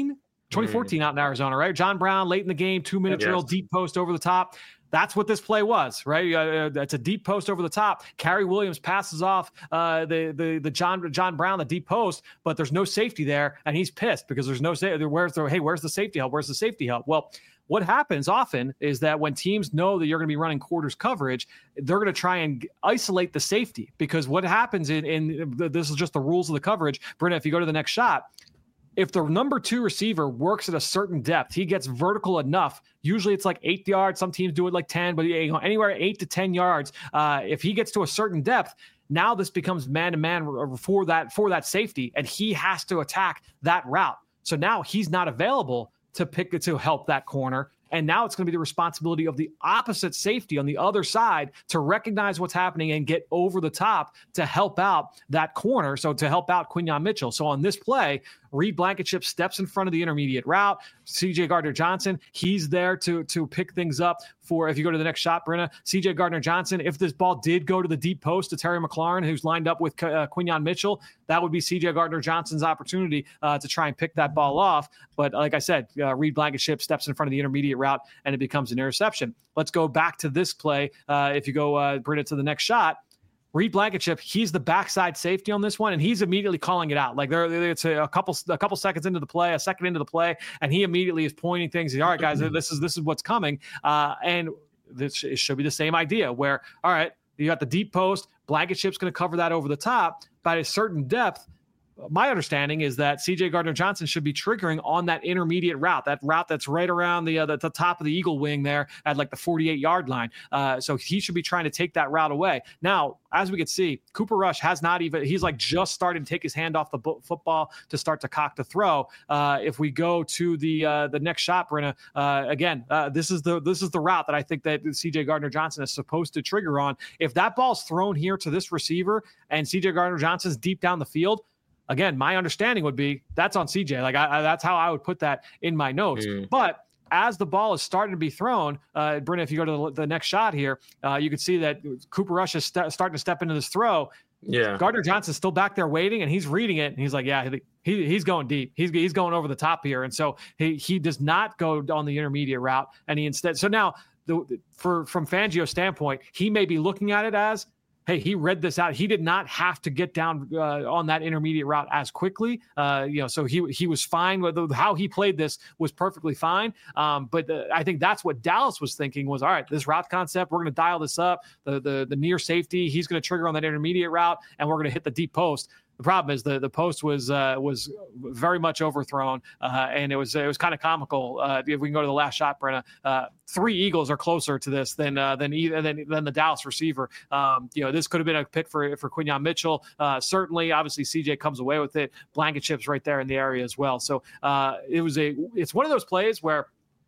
twenty fourteen mm. out in Arizona, right? John Brown late in the game, two minute yes. drill, deep post over the top. That's what this play was, right? Uh, it's a deep post over the top. Cary Williams passes off uh, the the the John John Brown, the deep post, but there's no safety there, and he's pissed because there's no safety. Where's the hey? Where's the safety help? Where's the safety help? Well, what happens often is that when teams know that you're going to be running quarters coverage, they're going to try and isolate the safety, because what happens in in this is just the rules of the coverage. Brenda, if you go to the next shot, if the number two receiver works at a certain depth, he gets vertical enough. Usually it's like eight yards. Some teams do it like ten, but you know, anywhere eight to ten yards. Uh, if he gets to a certain depth, now this becomes man to man for that for that safety, and he has to attack that route. So now he's not available to pick it to help that corner. And now it's going to be the responsibility of the opposite safety on the other side to recognize what's happening and get over the top to help out that corner. So to help out Quinyon Mitchell. So on this play, Reed Blankenship steps in front of the intermediate route. C J Gardner-Johnson, he's there to, to pick things up for, if you go to the next shot, Brenna, C J Gardner-Johnson, if this ball did go to the deep post to Terry McLaurin, who's lined up with uh, Quinyon Mitchell, that would be C J Gardner-Johnson's opportunity uh, to try and pick that ball off. But like I said, uh, Reed Blankenship steps in front of the intermediate route and it becomes an interception. Let's go back to this play. Uh, if you go, uh, Brenna, to the next shot, Reed Blankenship, he's the backside safety on this one, and he's immediately calling it out. Like there, it's a, a couple, a couple seconds into the play, a second into the play, and he immediately is pointing things. All right, guys, this is this is what's coming, uh, and this should be the same idea. Where, all right, you got the deep post, Blankenship's going to cover that over the top by a certain depth. My understanding is that C J Gardner-Johnson should be triggering on that intermediate route, that route that's right around the, uh, the, the top of the eagle wing there at like the forty-eight yard line. Uh, so he should be trying to take that route away. Now, as we can see, Cooper Rush has not even, he's like just starting to take his hand off the bo- football to start to cock the throw. Uh, if we go to the uh, the next shot, Brenna, uh, again, uh, this is the this is the route that I think that C J Gardner-Johnson is supposed to trigger on. If that ball's thrown here to this receiver and C J Gardner-Johnson's deep down the field, again, my understanding would be that's on C J. Like I, I, that's how I would put that in my notes. Mm. But as the ball is starting to be thrown, uh, Brenna, if you go to the, the next shot here, uh, you can see that Cooper Rush is st- starting to step into this throw. Yeah, Gardner-Johnson's still back there waiting, and he's reading it, and he's like, "Yeah, he, he's going deep. He's he's going over the top here." And so he he does not go on the intermediate route, and he instead. So now, the, for from Fangio's standpoint, he may be looking at it as, hey, he read this out. He did not have to get down uh, on that intermediate route as quickly. Uh, you know, so he he was fine with how he played this was perfectly fine. Um, but uh, I think that's what Dallas was thinking was, all right, this route concept, we're going to dial this up. The the the near safety, he's going to trigger on that intermediate route, and we're going to hit the deep post. The problem is the, the post was uh, was very much overthrown, uh, and it was it was kind of comical. Uh, if we can go to the last shot, Brenna, uh, three Eagles are closer to this than uh, than either than, than the Dallas receiver. Um, you know, this could have been a pick for for Quinyon Mitchell. Uh, certainly, obviously, C J comes away with it. Blankenship's right there in the area as well. So uh, it was a it's one of those plays where.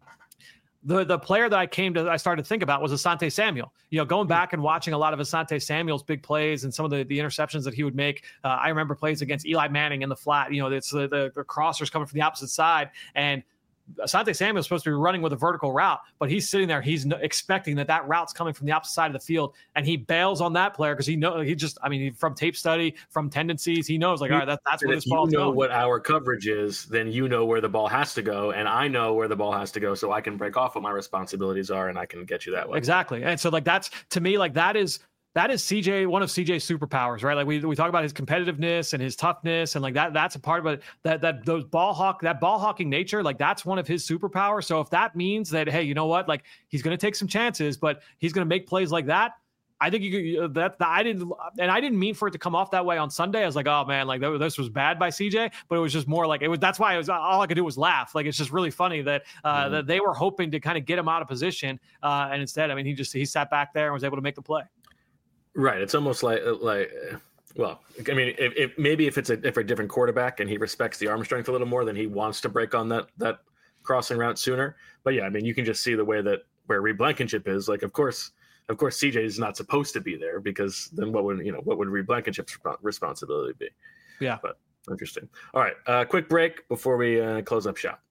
The the player that I came to, I started to think about was Asante Samuel. You know, going back and watching a lot of Asante Samuel's big plays and some of the, the interceptions that he would make. Uh, I remember plays against Eli Manning in the flat. You know, it's the, the, the crossers coming from the opposite side, and Asante Samuel is supposed to be running with a vertical route, but he's sitting there. He's no, expecting that that route's coming from the opposite side of the field, and he bails on that player because he know he just. I mean, from tape study, from tendencies, he knows like, all right, that, that's where this ball. You know going. What our coverage is, then you know where the ball has to go, and I know where the ball has to go, so I can break off what my responsibilities are, and I can get you that way. Exactly, and so like that's to me like that is. That is C J, one of C J's superpowers, right? Like we we talk about his competitiveness and his toughness, and like that that's a part of it. That that those ball hawk that ball hawking nature, like that's one of his superpowers. So if that means that, hey, you know what, like he's going to take some chances, but he's going to make plays like that. I think you could, that, that I didn't, and I didn't mean for it to come off that way on Sunday. I was like, oh man, like that, this was bad by C J, but it was just more like it was. That's why it was all I could do was laugh. Like it's just really funny that uh, mm-hmm. that they were hoping to kind of get him out of position, uh, and instead, I mean, he just he sat back there and was able to make the play. Right. It's almost like, like, well, I mean, if, if maybe if it's a, if a different quarterback and he respects the arm strength a little more, then he wants to break on that, that crossing route sooner. But yeah, I mean, you can just see the way that where Reed Blankenship is like, of course, of course, C J is not supposed to be there because then what would, you know, what would Reed Blankenship's responsibility be? Yeah. But interesting. All right. Uh, quick break before we uh, close up shop.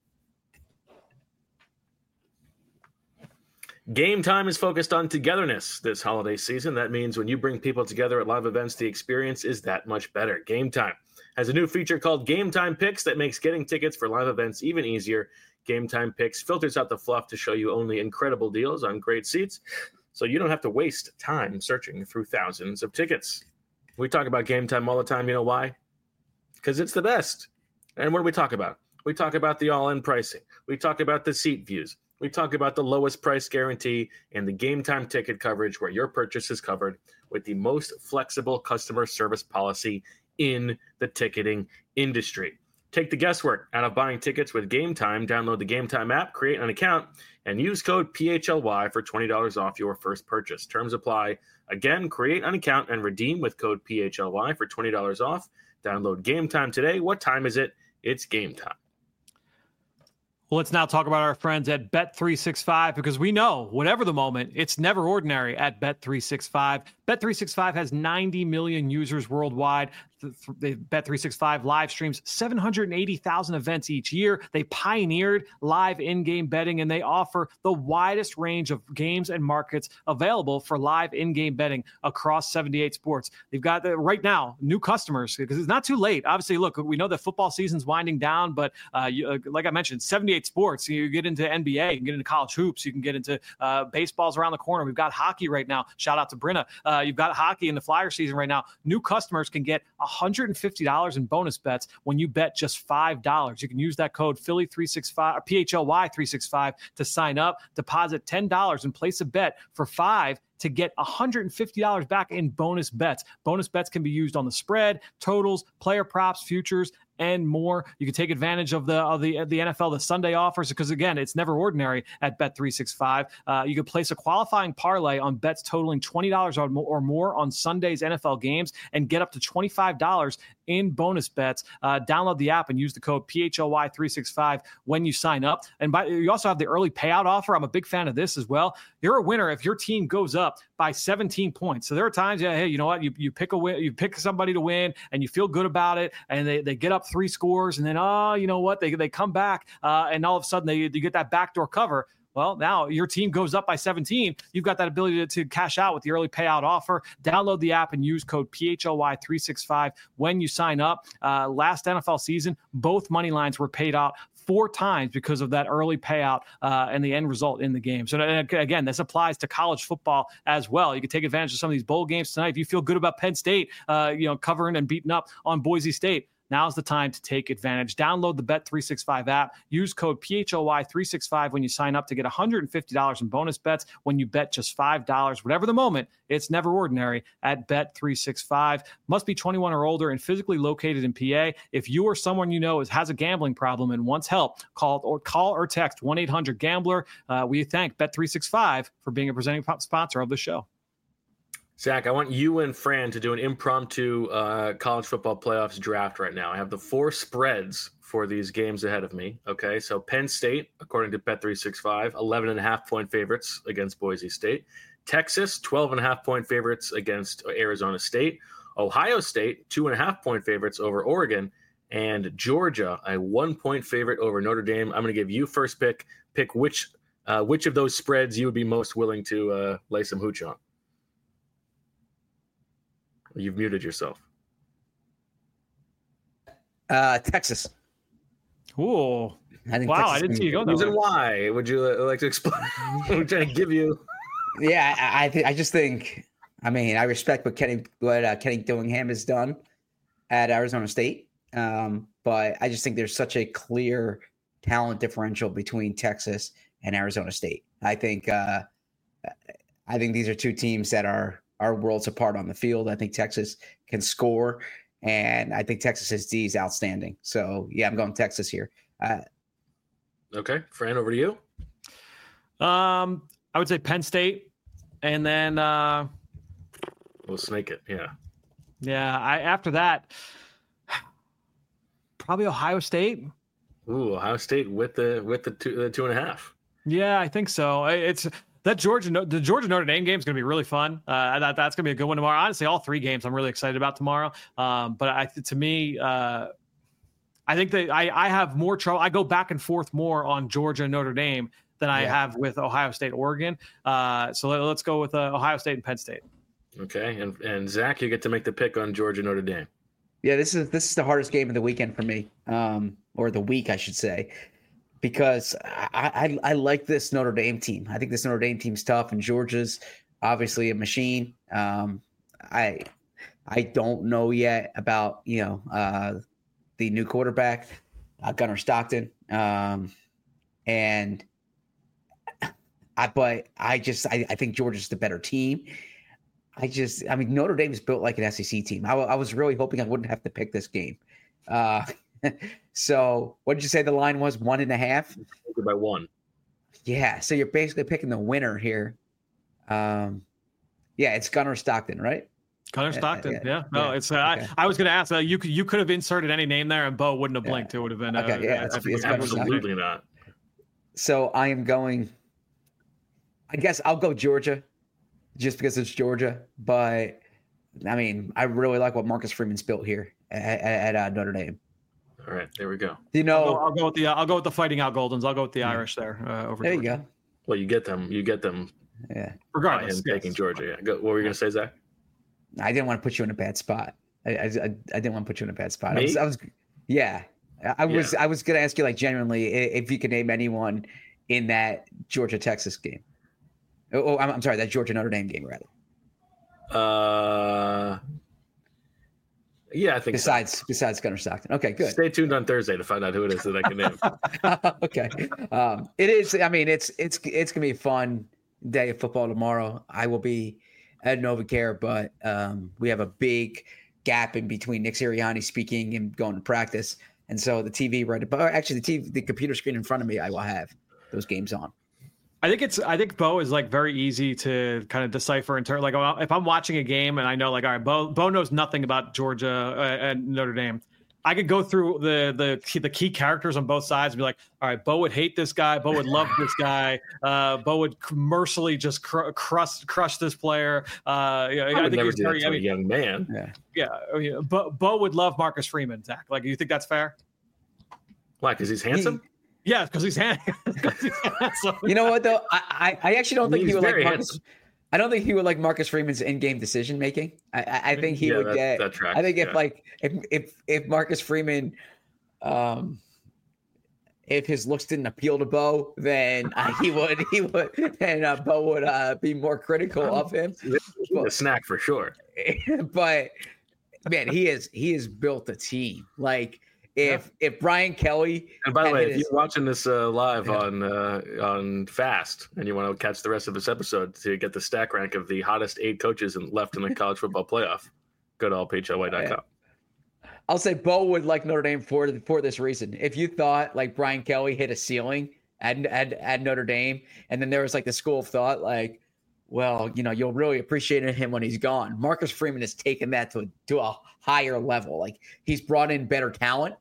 Game Time is focused on togetherness this holiday season. That means when you bring people together at live events, the experience is that much better. Game Time has a new feature called Game Time Picks that makes getting tickets for live events even easier. Game Time Picks filters out the fluff to show you only incredible deals on great seats, so you don't have to waste time searching through thousands of tickets. We talk about Game Time all the time. You know why? Because it's the best. And what do we talk about? We talk about the all-in pricing. We talk about the seat views. We talk about the lowest price guarantee and the Game Time ticket coverage where your purchase is covered with the most flexible customer service policy in the ticketing industry. Take the guesswork out of buying tickets with Game Time. Download the Game Time app, create an account, and use code P H L Y for twenty dollars off your first purchase. Terms apply. Again, create an account and redeem with code P H L Y for twenty dollars off. Download Game Time today. What time is it? It's game time. Well, let's now talk about our friends at Bet three sixty-five, because we know, whatever the moment, it's never ordinary at Bet three sixty-five. Bet three sixty-five has ninety million users worldwide. The Bet three sixty-five live streams seven hundred eighty thousand events each year. They pioneered live in-game betting, and they offer the widest range of games and markets available for live in-game betting across seventy-eight sports. They've got the, right now new customers, because it's not too late. Obviously, look, we know that football season's winding down, but uh, you, uh, like I mentioned, seventy-eight sports. You get into N B A, you can get into college hoops, you can get into uh, baseballs around the corner. We've got hockey right now. Shout out to Brenna. Uh, you've got hockey in the Flyer season right now. New customers can get one hundred fifty dollars in bonus bets when you bet just five dollars. You can use that code Philly three sixty-five or P H L Y three sixty-five to sign up, deposit ten dollars and place a bet for five to get one hundred fifty dollars back in bonus bets. Bonus bets can be used on the spread, totals, player props, futures, and more. You can take advantage of the of the the N F L, the Sunday offers, because again, it's never ordinary at Bet three sixty-five. Uh, you can place a qualifying parlay on bets totaling twenty dollars or more on Sunday's N F L games and get up to twenty-five dollars in bonus bets. Uh, download the app and use the code P H L Y three sixty-five when you sign up. And by, you also have the early payout offer. I'm a big fan of this as well. You're a winner if your team goes up by seventeen points. So there are times, yeah, hey, you know what? You you pick a win, you pick somebody to win, and you feel good about it, and they, they get up three scores, and then oh, you know what? They they come back, uh, and all of a sudden they you get that backdoor cover. Well, now your team goes up by seventeen. You've got that ability to, to cash out with the early payout offer. Download the app and use code P H L Y three sixty-five when you sign up. Uh, last N F L season, both money lines were paid out four times because of that early payout uh, and the end result in the game. So again, this applies to college football as well. You can take advantage of some of these bowl games tonight. If you feel good about Penn State, uh, you know, covering and beating up on Boise State, now's the time to take advantage. Download the Bet three sixty-five app. Use code P H L Y three sixty-five when you sign up to get one hundred fifty dollars in bonus bets when you bet just five dollars. Whatever the moment, it's never ordinary at Bet three sixty-five. Must be twenty-one or older and physically located in P A. If you or someone you know is, has a gambling problem and wants help, call or call or text one eight hundred gambler. Uh, we thank Bet three sixty-five for being a presenting sponsor of the show. Zach, I want you and Fran to do an impromptu uh, college football playoffs draft right now. I have the four spreads for these games ahead of me. Okay, so Penn State, according to Bet three sixty-five, eleven and a half point favorites against Boise State. Texas, twelve and a half point favorites against Arizona State. Ohio State, two and a half point favorites over Oregon. And Georgia, a one point favorite over Notre Dame. I'm going to give you first pick. Pick which uh, which of those spreads you would be most willing to uh, lay some hooch on. You've muted yourself. Uh, Texas. Ooh. I think wow, Texas I didn't see you go Reason there. why? Would you uh, like to explain? I'm trying to give you. Yeah, I I, th- I just think. I mean, I respect what Kenny what uh, Kenny Dillingham has done at Arizona State, um, but I just think there's such a clear talent differential between Texas and Arizona State. I think. Uh, I think these are two teams that are. are worlds apart on the field. I think Texas can score, and I think Texas's D is outstanding. So, yeah, I'm going Texas here. Uh, okay, Fran, over to you. Um, I would say Penn State, and then uh, We'll snake it, yeah. Yeah, I after that, probably Ohio State. Ooh, Ohio State with the with the two, the two and a half. Yeah, I think so. It's that Georgia the Georgia Notre Dame game is going to be really fun. Uh, that, that's going to be a good one tomorrow. Honestly, all three games I'm really excited about tomorrow. Um, but I, to me, uh, I think that I, I have more trouble. I go back and forth more on Georgia and Notre Dame than I Yeah. have with Ohio State, Oregon. Uh, so let, let's go with uh, Ohio State and Penn State. Okay, and and Zach, you get to make the pick on Georgia Notre Dame. Yeah, this is this is the hardest game of the weekend for me, um, or the week, I should say, because I, I I like this Notre Dame team. I think this Notre Dame team's tough, and Georgia's obviously a machine. Um, I I don't know yet about you know uh, the new quarterback, uh, Gunnar Stockton, um, and I but I just I, I think Georgia's the better team. I just, I mean, Notre Dame is built like an S E C team. I, I was really hoping I wouldn't have to pick this game. Uh, so, what did you say the line was? One and a half? By one. Yeah. So you're basically picking the winner here. Um, yeah, it's Gunnar Stockton, right? Gunnar Stockton. Yeah. yeah. No, yeah. it's. Uh, Okay. I, I was going to ask. Uh, you could you could have inserted any name there, and Bo wouldn't have blinked. Yeah. It would have been. Okay. Uh, Yeah. It's, it's Absolutely not. So I am going. I guess I'll go Georgia, just because it's Georgia. But I mean, I really like what Marcus Freeman's built here at, at, at uh, Notre Dame. All right, there we go. You know, I'll go, I'll go with the. Uh, I'll go with the Fighting Out Goldens. I'll go with the Irish there. Uh, over. There Georgia. you go. Well, you get them. You get them. Yeah. By Regardless, him yes. taking Georgia. Yeah. Go, what were you going to say, Zach? I didn't want to put you in a bad spot. I I, I didn't want to put you in a bad spot. Me? I was, I was yeah. I was Yeah. I was gonna ask you like genuinely if you could name anyone in that Georgia Texas game. Oh, oh I'm, I'm sorry, that Georgia Notre Dame game rather. Uh, yeah, I think so. Besides besides Gunnar Stockton. Okay, good. Stay tuned on Thursday to find out who it is that I can name. Okay. Um, it is. I mean, it's it's it's gonna be a fun day of football tomorrow. I will be at NovaCare, but um, we have a big gap in between Nick Sirianni speaking and going to practice, and so the T V right above. Actually, the T V, the computer screen in front of me, I will have those games on. I think it's. I think Bo is like very easy to kind of decipher in terms. Like if I'm watching a game and I know, like, all right, Bo Bo knows nothing about Georgia uh, and Notre Dame. I could go through the the key, the key characters on both sides and be like, all right, Bo would hate this guy. Bo would love this guy. Uh, Bo would mercilessly just cr- crush crush this player. Uh, yeah, I, I, would think never he's do that very. to I a mean, young man. Yeah. yeah, yeah. Bo, Bo would love Marcus Freeman. Zach, like, you think that's fair? Why? Because he's handsome. Yeah, because he's handsome. You know what though? I I, I actually don't think He's he would like very Marcus. handsome. I don't think he would like Marcus Freeman's in-game decision making. I, I, I think he Yeah, would that- get. that tracks, I think if yeah. like if if if Marcus Freeman, um, if his looks didn't appeal to Bo, then uh, he would he would and uh, Bo would uh, be more critical of him. He's a snack for sure. But man, he is he has built a team. Like if if Brian Kelly. And by the had way, hit if his- you're watching this uh, live Yeah. on uh, on Fast and you want to catch the rest of this episode to get the stack rank of the hottest eight coaches in, left in the college football playoff, go to all p h l y dot com. I'll say Bo would like Notre Dame for for this reason. If you thought like Brian Kelly hit a ceiling at, at at Notre Dame, and then there was like the school of thought, like, well, you know, you'll really appreciate him when he's gone. Marcus Freeman has taken that to to a higher level. Like he's brought in better talent,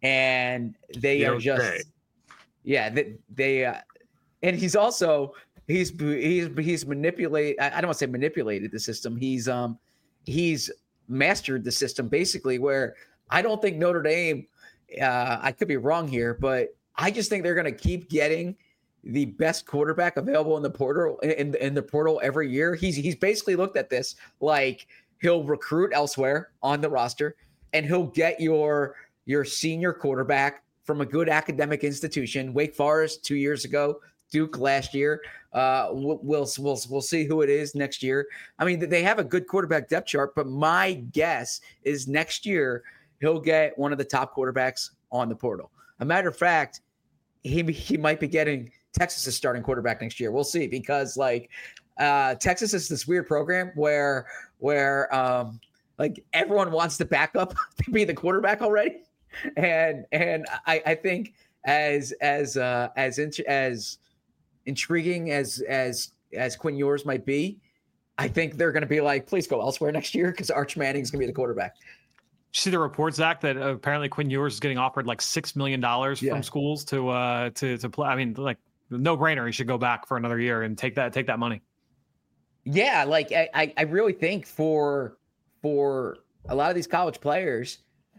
and they You are don't just, say. yeah, they, they uh, and he's also he's he's he's manipulate. I I don't want to say manipulated the system. He's um he's mastered the system basically where. I don't think Notre Dame, uh, I could be wrong here, but I just think they're going to keep getting the best quarterback available in the portal in, in the portal every year. He's he's basically looked at this like he'll recruit elsewhere on the roster and he'll get your your senior quarterback from a good academic institution. Wake Forest two years ago, Duke last year. Uh, we'll, we'll we'll we'll see who it is next year. I mean, they have a good quarterback depth chart, but my guess is next year he'll get one of the top quarterbacks on the portal. A matter of fact, he he might be getting Texas's starting quarterback next year. We'll see because like uh, Texas is this weird program where where um, like everyone wants the backup to be the quarterback already, and and I, I think as as uh, as int- as intriguing as as as Quinn Ewers might be, I think they're going to be like, please go elsewhere next year because Arch Manning's going to be the quarterback. See the reports, Zach, that apparently Quinn Ewers is getting offered like six million dollars Yeah. from schools to uh to to play. I mean, like no brainer. He should go back for another year and take that take that money. Yeah, like I, I- I really think for for a lot of these college players,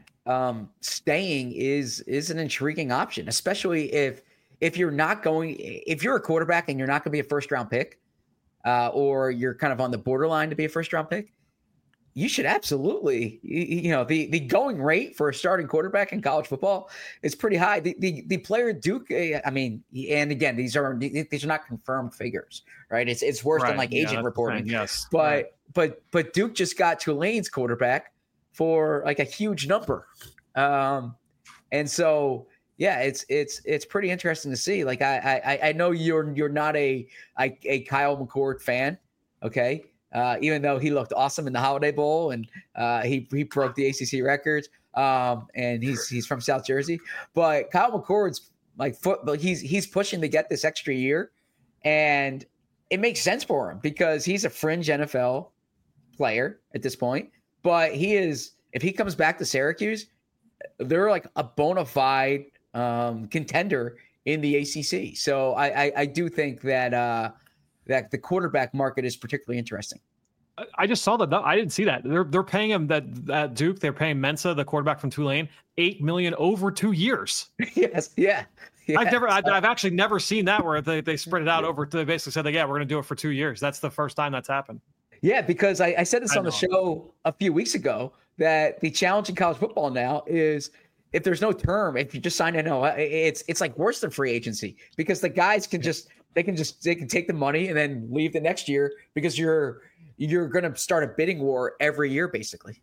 um, staying is is an intriguing option, especially if if you're not going if you're a quarterback and you're not going to be a first round pick, uh, or you're kind of on the borderline to be a first round pick. you should absolutely, you, you know, the, the going rate for a starting quarterback in college football is pretty high. The the, the player Duke, I mean, and again, these are these are not confirmed figures, right? It's it's worse Right. than like Yeah, agent that's the reporting. thing. Yes. But Right. but but Duke just got Tulane's quarterback for like a huge number, um, and so yeah, it's it's it's pretty interesting to see. Like I I I know you're you're not a a, a Kyle McCord fan, okay? Uh, even though he looked awesome in the Holiday Bowl and uh, he he broke the A C C records, um, and he's he's from South Jersey, but Kyle McCord's like foot, but he's he's pushing to get this extra year, and it makes sense for him because he's a fringe N F L player at this point. But he is, if he comes back to Syracuse, they're like a bona fide um, contender in the A C C. So I I, I do think that. Uh, that the quarterback market is particularly interesting. I just saw that. I didn't see that. They're they're paying him that at Duke. They're paying Mensa, the quarterback from Tulane, eight million over two years. yes, yeah. Yes. I've never, I've, I've actually never seen that where they, they spread it out over. They basically said, like, yeah, we're going to do it for two years. That's the first time that's happened. Yeah, because I, I said this I on the know. show a few weeks ago that the challenge in college football now is if there's no term, if you just sign N L, it's it's like worse than free agency because the guys can just. They can just they can take the money and then leave the next year because you're you're going to start a bidding war every year, basically.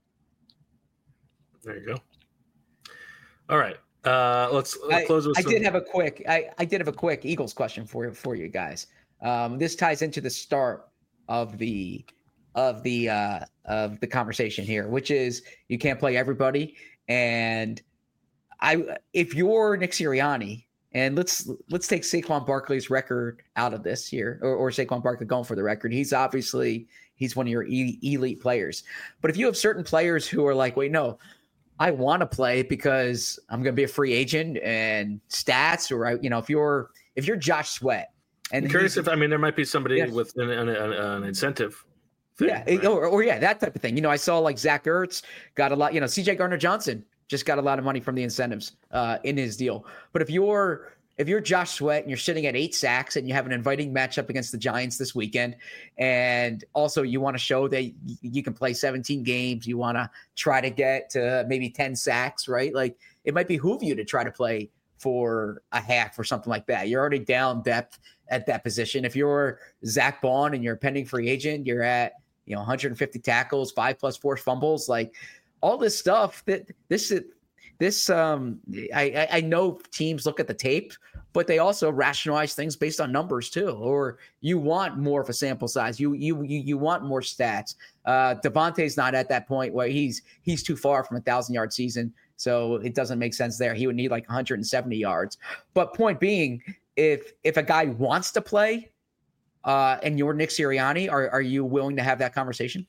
There you go. All right, uh, let's, let's I, close with. I some... did have a quick I, I did have a quick Eagles question for for you guys. Um, this ties into the start of the of the uh, of the conversation here, which is you can't play everybody, and I if you're Nick Sirianni. And let's let's take Saquon Barkley's record out of this here, or, or Saquon Barkley going for the record. He's obviously he's one of your e- elite players. But if you have certain players who are like, wait, no, I want to play because I'm going to be a free agent and stats, or I, you know, if you're if you're Josh Sweat, and I'm curious if I mean there might be somebody Yes. with an, an, an, an incentive. Thing, yeah, right? or, or yeah, that type of thing. You know, I saw like Zach Ertz got a lot. You know, C J Gardner Johnson just got a lot of money from the incentives uh, in his deal. But if you're if you're Josh Sweat and you're sitting at eight sacks and you have an inviting matchup against the Giants this weekend, and also you want to show that y- you can play seventeen games, you want to try to get to maybe ten sacks, right? Like it might behoove you to try to play for a half or something like that. You're already down depth at that position. If you're Zach Bond and you're a pending free agent, you're at you know one hundred fifty tackles, five plus forced fumbles, like all this stuff that this is this um I, I know teams look at the tape, but they also rationalize things based on numbers too. Or you want more of a sample size. You you you, you want more stats. Uh Devontae's not at that point where he's he's too far from a thousand yard season. So it doesn't make sense there. He would need like one hundred seventy yards. But point being, if if a guy wants to play uh and you're Nick Sirianni, are are you willing to have that conversation?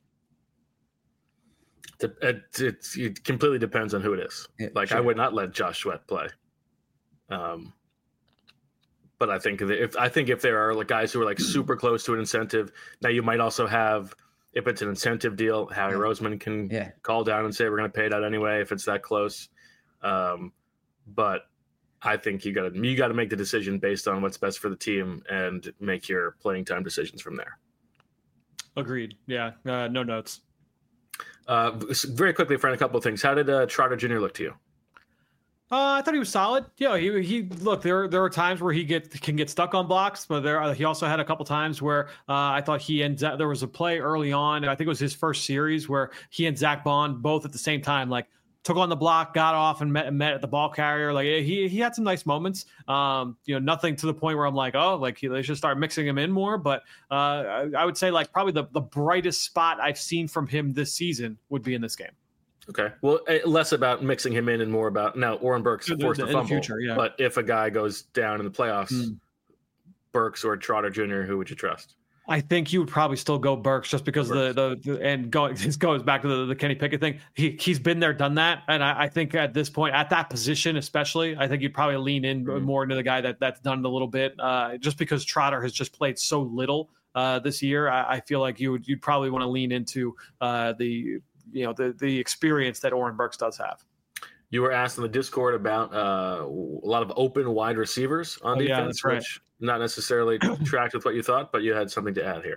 It, it, it completely depends on who it is. Yeah, like sure. I would not let Josh Sweat play. Um, but I think if I think if there are like guys who are like super close to an incentive, now you might also have if it's an incentive deal, Howie Yeah. Roseman can Yeah. call down and say we're going to pay it out anyway if it's that close. Um, but I think you got to you got to make the decision based on what's best for the team and make your playing time decisions from there. Agreed. Yeah. Uh, no notes. Uh, very quickly, Fran, a couple of things. How did uh, Trotter Junior look to you? Uh, I thought he was solid. Yeah, he he look there. There are times where he get can get stuck on blocks, but there he also had a couple times where uh, I thought he and Zach, there was a play early on. I think it was his first series where he and Zach Bond both at the same time like took on the block, got off, and met met at the ball carrier. Like he he had some nice moments. Um, you know, nothing to the point where I'm like, oh, like he, they should start mixing him in more. But uh, I, I would say like probably the the brightest spot I've seen from him this season would be in this game. Okay. Well, eh, less about mixing him in and more about now. Oren Burks In the- forced a in the fumble, future, yeah. but if a guy goes down in the playoffs, Mm. Burks or Trotter Junior, who would you trust? I think you would probably still go Burks just because the, the the and going this goes back to the, the Kenny Pickett thing. He he's been there, done that, and I, I think at this point, at that position especially, I think you'd probably lean in Mhm. more into the guy that that's done it a little bit. Uh, just because Trotter has just played so little uh, this year, I, I feel like you would you'd probably want to lean into uh, the you know the the experience that Oren Burks does have. You were asked in the Discord about uh, a lot of open wide receivers on Oh, yeah, defense, that's right. which not necessarily tracked with what you thought, but you had something to add here.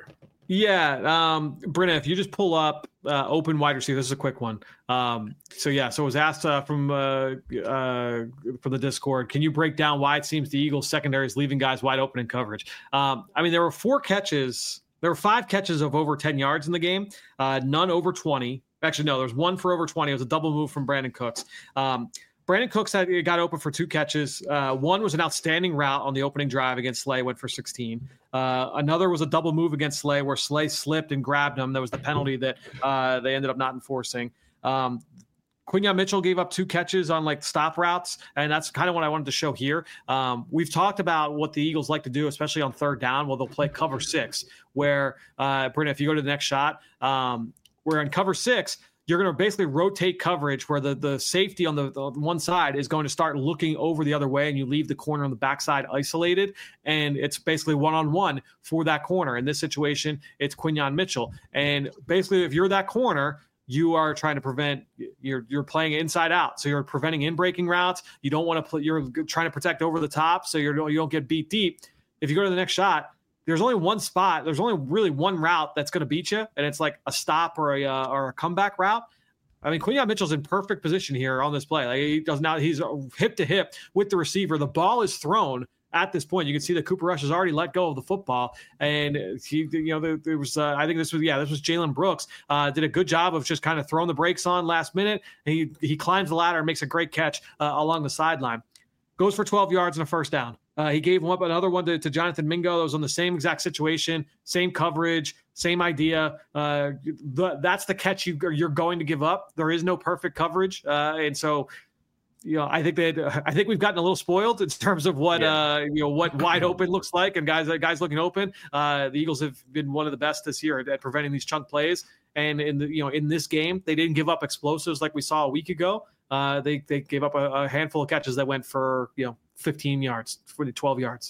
Yeah, um, Brenna, if you just pull up uh, open wide receiver, this is a quick one. Um, so yeah, so it was asked uh, from uh, uh, from the Discord, can you break down why it seems the Eagles secondary is leaving guys wide open in coverage? Um, I mean, there were four catches, there were five catches of over ten yards in the game, uh, none over twenty. Actually, no, there was one for over twenty. It was a double move from Brandon Cooks. Um, Brandon Cooks had, got open for two catches. Uh, one was an outstanding route on the opening drive against Slay, went for sixteen. Uh, another was a double move against Slay where Slay slipped and grabbed him. That was the penalty that uh, they ended up not enforcing. Um, Quinyon Mitchell gave up two catches on like stop routes, and that's kind of what I wanted to show here. Um, we've talked about what the Eagles like to do, especially on third down. Well, they'll play cover six, where, uh, Brenda, if you go to the next shot, um, we're in cover six, you're going to basically rotate coverage where the, the safety on the, the one side is going to start looking over the other way, and you leave the corner on the backside isolated, and it's basically one-on-one for that corner. In this situation, it's Quinyon Mitchell. And basically, if you're that corner, you are trying to prevent, you're you're playing inside out. So you're preventing in-breaking routes. You don't want to play, you're trying to protect over the top so you're, you don't get beat deep. If you go to the next shot, there's only one spot. There's only really one route that's going to beat you, and it's like a stop or a uh, or a comeback route. I mean, Quinyon Mitchell's in perfect position here on this play. Like he does not, he's hip to hip with the receiver. The ball is thrown at this point. You can see that Cooper Rush has already let go of the football, and he, you know, there, there was, uh, I think this was, yeah, this was Jalen Brooks. Uh, did a good job of just kind of throwing the brakes on last minute. And he he climbs the ladder and makes a great catch uh, along the sideline. Goes for twelve yards and a first down. Uh, he gave him up another one to, to Jonathan Mingo that was on the same exact situation, same coverage, same idea. Uh, the, that's the catch you, you're going to give up. There is no perfect coverage, uh, and so you know I think that I think we've gotten a little spoiled in terms of what yeah. uh, you know what wide open looks like, and guys guys looking open. Uh, the Eagles have been one of the best this year at, at preventing these chunk plays, and in the you know in this game they didn't give up explosives like we saw a week ago. Uh, they they gave up a, a handful of catches that went for you know fifteen yards, for the twelve yards.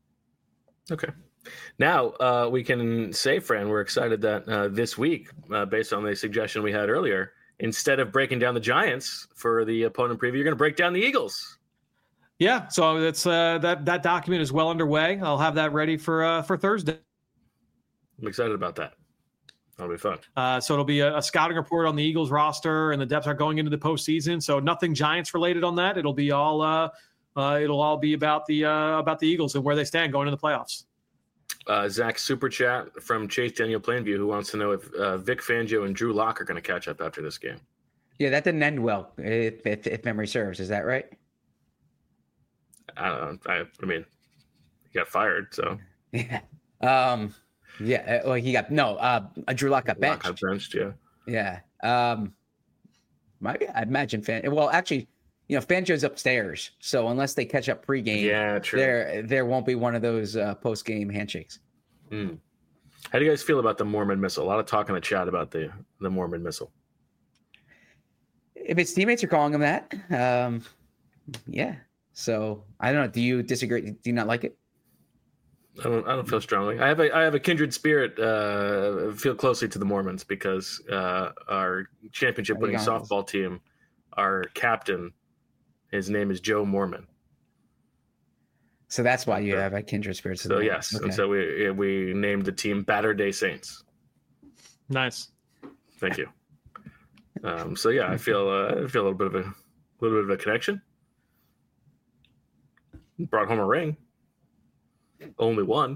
Okay. Now uh, we can say, Fran, we're excited that uh, this week, uh, based on the suggestion we had earlier, instead of breaking down the Giants for the opponent preview, you're going to break down the Eagles. Yeah, so that's uh, that that document is well underway. I'll have that ready for uh, for Thursday. I'm excited about that. That'll be fun. Uh, so it'll be a, a scouting report on the Eagles roster and the depth are going into the postseason. So nothing Giants related on that. It'll be all uh, uh, it'll all be about the uh, about the Eagles and where they stand going into the playoffs. Uh, Zach super chat from Chase Daniel Plainview, who wants to know if uh, Vic Fangio and Drew Lock are going to catch up after this game. Yeah, that didn't end well, if if, if memory serves. Is that right? I don't know. I, I mean, he got fired, so yeah. Um, yeah. Well, he got no. Uh, Drew Lock got benched. Lock got benched. Yeah. Yeah. Um, maybe I imagine Fan. Well, actually, you know, Fangio's upstairs, so unless they catch up pregame, yeah, true. There, there won't be one of those uh, post-game handshakes. Mm. How do you guys feel about the Mormon missile? A lot of talk in the chat about the the Mormon missile. If his teammates are calling him that, um, yeah. So I don't know. Do you disagree? Do you not like it? I don't. I don't feel strongly. I have a. I have a kindred spirit. Uh, feel closely to the Mormons because uh, our championship-winning softball team, our captain, his name is Joe Mormon. So that's why you have a kindred spirit. So yes, okay. And so we we named the team Batter Day Saints. Nice. Thank you. Um, so yeah, I feel uh, I feel a little bit of a little bit of a connection. Brought home a ring. Only one.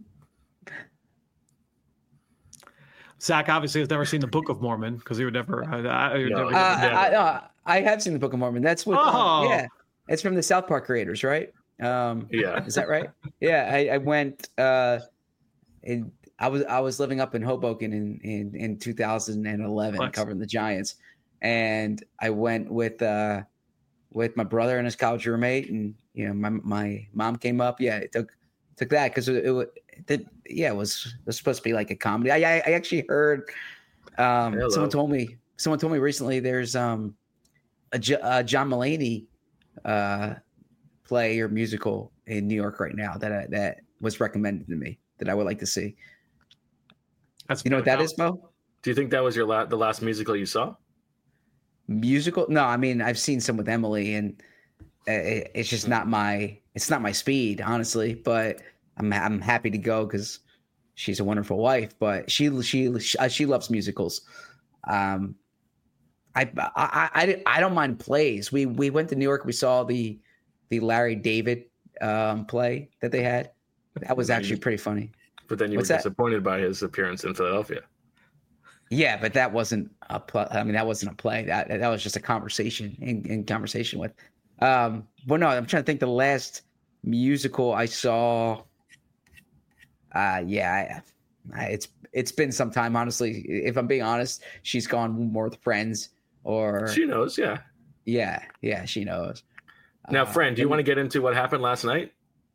Zach obviously has never seen the Book of Mormon because he would never. Uh, I, no. never, uh, I, uh, I have seen the Book of Mormon. That's what. Oh. Uh, yeah, it's from the South Park creators, right? Um, yeah, is that right? Yeah, I, I went. Uh, in, I was I was living up in Hoboken in in, in two thousand eleven, what? Covering the Giants, and I went with uh, with my brother and his college roommate, and you know my my mom came up. Yeah, it took took that because it, it, it yeah it was it was supposed to be like a comedy. I I, I actually heard um, someone told me someone told me recently there's um a, a John Mulaney uh, play or musical in New York right now that I, that was recommended to me that I would like to see. That's you know what that is, Mo? Do you think that was your la- the last musical you saw? Musical? No, I mean I've seen some with Emily, and it, it's just not my it's not my speed, honestly. But I'm I'm happy to go because she's a wonderful wife, but she she she loves musicals. Um, I, I I I don't mind plays. We we went to New York. We saw the the Larry David um, play that they had. That was actually pretty funny. But then you What's were that? disappointed by his appearance in Philadelphia. Yeah, but that wasn't a play. I mean, that wasn't a play. That that was just a conversation in, in conversation with. Um, but no, I'm trying to think. The last musical I saw. Uh, yeah, I, I, it's it's been some time. Honestly, if I'm being honest, she's gone more with friends or She knows, yeah. yeah, yeah, she knows. Now, Uh, friend, do you and- want to get into what happened last night?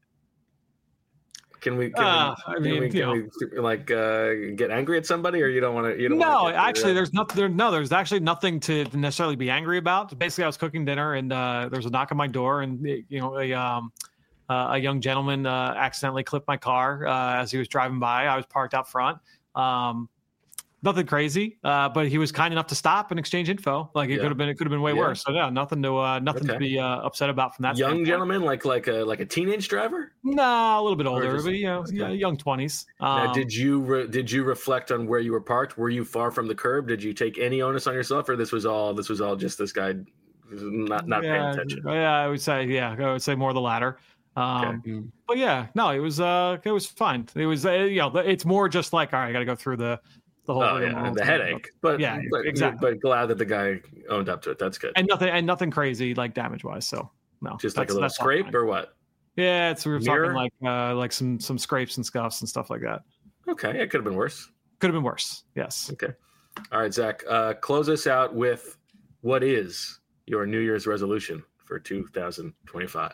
Can we? Can Uh, we, I can mean, we, you can we like uh, get angry at somebody, or you don't want to? You don't No, wanna get- actually, there's nothing. There, no, there's actually nothing to necessarily be angry about. Basically, I was cooking dinner, and uh, there was a knock on my door, and you know, a um, uh, a young gentleman uh, accidentally clipped my car uh, as he was driving by. I was parked out front. Um, nothing crazy, uh, but he was kind enough to stop and exchange info. Like it Yeah. could have been, it could have been way Yeah. worse. So yeah, nothing to uh, nothing Okay. to be uh, upset about from that. young standpoint. gentleman, like like a like a teenage driver. No, a little bit older, just- but you know, okay. yeah, young twenties. Now, Um, did you re- did you reflect on where you were parked? Were you far from the curb? Did you take any onus on yourself, or this was all this was all just this guy not not yeah, paying attention? Yeah, I would say yeah, I would say more the latter. Um, Mm. But yeah, no, it was uh, it was fine. It was uh, you know, it's more just like all right, I got to go through the the whole Oh rigmarole yeah, the to- headache. But Yeah, but, exactly. But glad that the guy owned up to it. That's good. and nothing and nothing crazy like damage wise. So no, Just like a that's- little that's all scrape fine. or what? Yeah, it's we were Mirror? talking like uh, like some some scrapes and scuffs and stuff like that. Okay, it could have been worse. Could have been worse. Yes. Okay. All right, Zach. Uh, close us out with what is your New Year's resolution for two thousand twenty-five?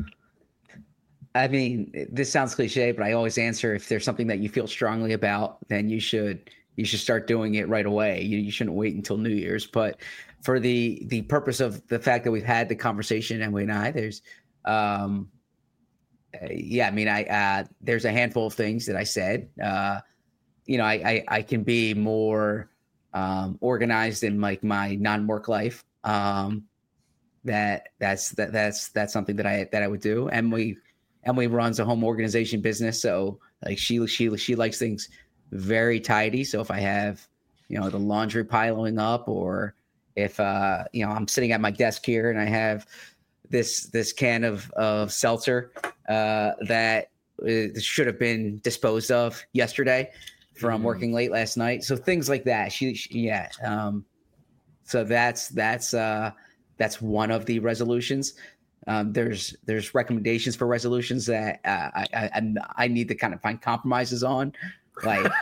I mean, this sounds cliche, but I always answer if there's something that you feel strongly about, then you should you should start doing it right away. You, you shouldn't wait until New Year's. But for the the purpose of the fact that we've had the conversation, Emily and I, there's um uh, yeah, I mean, I uh there's a handful of things that I said. Uh, you know, I I, I can be more um organized in like my non-work life. Um that that's that that's that's something that I that I would do. Emily Emily runs a home organization business, so like she she she likes things very tidy. So if I have, you know, the laundry piling up, or if uh, you know, I'm sitting at my desk here and I have this this can of of seltzer uh, that uh, should have been disposed of yesterday from Mhm. working late last night. So things like that. She, she yeah. Um, so that's that's uh, that's one of the resolutions. Um, there's there's recommendations for resolutions that uh, I, I I'm- I need to kind of find compromises on, like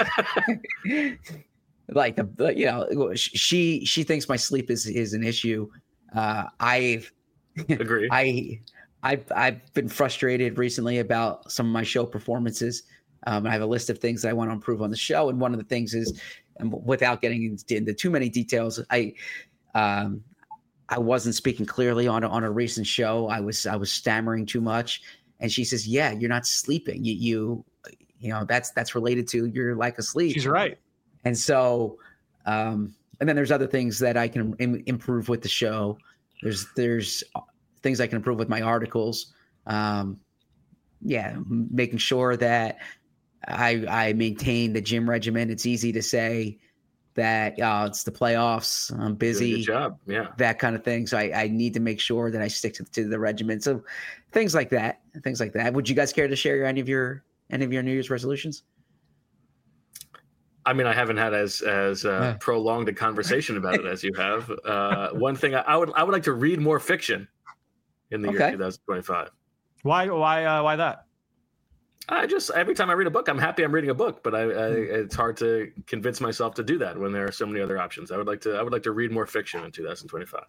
like the, the you know she she thinks my sleep is is an issue. Uh, I've Agree. I I've I've been frustrated recently about some of my show performances. Um, I have a list of things that I want to improve on the show, and one of the things is, and without getting into, into too many details, I um, I wasn't speaking clearly on a, on a recent show. I was I was stammering too much, and she says, "Yeah, you're not sleeping. You you you know that's that's related to your lack of sleep." She's right. And so, um, and then there's other things that I can Im- improve with the show. There's there's things I can improve with my articles. Um, yeah, m- making sure that I I maintain the gym regimen. It's easy to say that uh, it's the playoffs. I'm Doing a busy. Good job. Yeah. That kind of thing. So I, I need to make sure that I stick to, to the regimen. So things like that, things like that. Would you guys care to share any of your any of your New Year's resolutions? I mean, I haven't had as as uh, Yeah. prolonged a conversation about it as you have. Uh, one thing I, I would I would like to read more fiction in the Okay. year twenty twenty-five. Why? Why? Uh, why that? I just every time I read a book, I'm happy I'm reading a book, but I, I Hmm. it's hard to convince myself to do that when there are so many other options. I would like to I would like to read more fiction in two thousand twenty-five.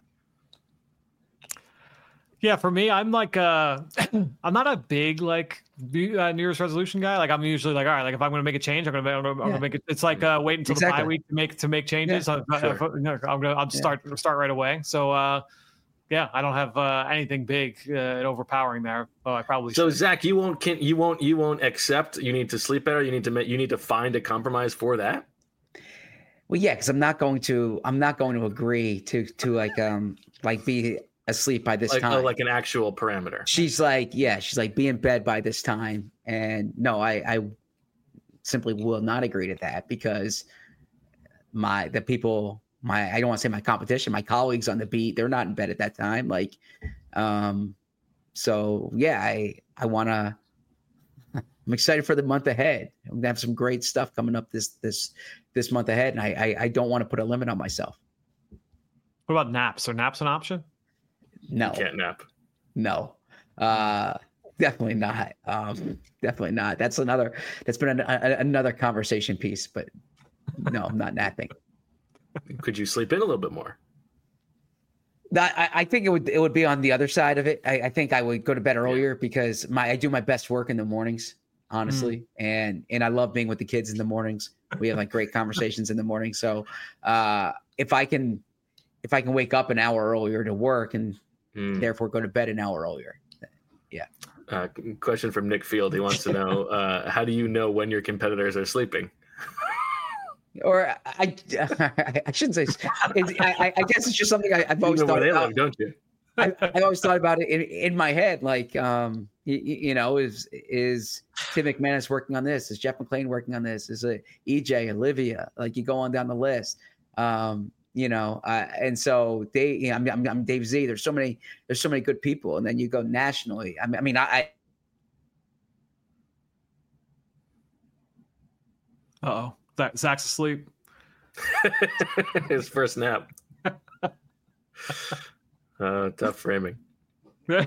Yeah, for me, I'm like, uh, I'm not a big like New uh, New Year's resolution guy. Like, I'm usually like, all right, like if I'm going to make a change, I'm going to, I'm going Yeah. to make it. It's like uh, wait until the Exactly. bye week to make to make changes. Yeah, I, sure. I, no, I'm going to, I'm Yeah. start start right away. So, uh, yeah, I don't have uh, anything big uh, and overpowering there. Oh, I probably So should. Zach, you won't can you won't you won't accept you need to sleep better. You need to make you need to find a compromise for that. Well, yeah, because I'm not going to I'm not going to agree to to like um like be asleep by this Like time. oh, like an actual parameter. She's like, yeah, she's like, be in bed by this time. And no, I I simply will not agree to that because my the people my I don't want to say my competition, my colleagues on the beat, they're not in bed at that time. Like, um, so yeah, I I want to. I'm excited for the month ahead. I'm gonna have some great stuff coming up this this this month ahead, and I I, I don't want to put a limit on myself. What about naps? Are naps an option? No, You can't nap. no, uh, definitely not. Um, definitely not. That's another. That's been an, a, another conversation piece, but no, I'm not napping. Could you sleep in a little bit more? That, I, I think it would it would be on the other side of it. I, I think I would go to bed earlier because my I do my best work in the mornings, honestly, mm. and and I love being with the kids in the mornings. We have like great conversations in the morning. So uh, if I can if I can wake up an hour earlier to work and mm. therefore go to bed an hour earlier, yeah. Uh, question from Nick Field. He wants to know uh, how do you know when your competitors are sleeping? Or I, I shouldn't say. I, I guess it's just something I, I've always thought about. Live, don't you? I, I always thought about it in, in my head, like, um, you, you know, is is Tim McManus working on this? Is Jeff McLean working on this? Is it E J, Olivia? Like, you go on down the list, um, you know, uh, and so they, you know, I'm, I'm, I'm Dave Z. There's so many, there's so many good people, and then you go nationally. I mean, I mean, I. I Uh-oh. Zach's asleep. His first nap. uh, tough framing. All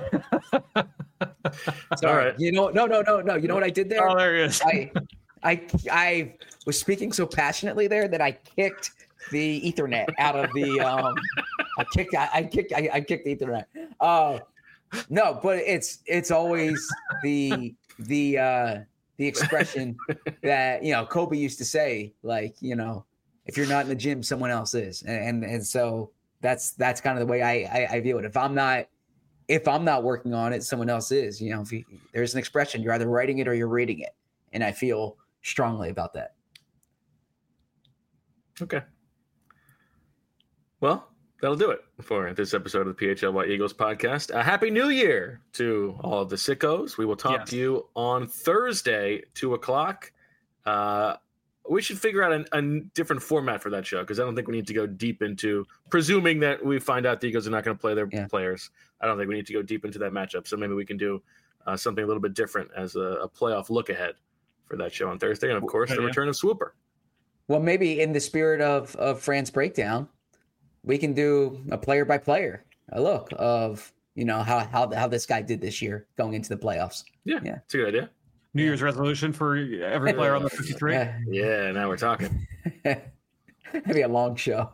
right. You know, no, no, no, no. You know what I did there? Oh, there he is. I, I, I was speaking so passionately there that I kicked the Ethernet out of the. Um, I kicked. I, I kicked. I, I kicked the Ethernet. Uh, no, but it's it's always the the. Uh, The expression that, you know, Kobe used to say, like, you know, if you're not in the gym, someone else is. And and, and so that's that's kind of the way I, I, I view it. If I'm not if I'm not working on it, someone else is. You know, if you, there's an expression, you're either writing it or you're reading it. And I feel strongly about that. Okay. Well, that'll do it for this episode of the P H L Y Eagles podcast. A happy New Year to all of the sickos. We will talk yes. to you on Thursday, two o'clock. Uh, we should figure out a, a different format for that show because I don't think we need to go deep into, presuming that we find out the Eagles are not going to play their yeah. players. I don't think we need to go deep into that matchup. So maybe we can do uh, something a little bit different as a, a playoff look ahead for that show on Thursday. And, of course, the yeah. return of Swooper. Well, maybe in the spirit of, of Fran's breakdown, we can do a player by player, a look of, you know, how how how this guy did this year going into the playoffs. Yeah, yeah, it's a good idea. New Year's resolution for every player on the fifty-three. Yeah, yeah now we're talking. That'd be a long show.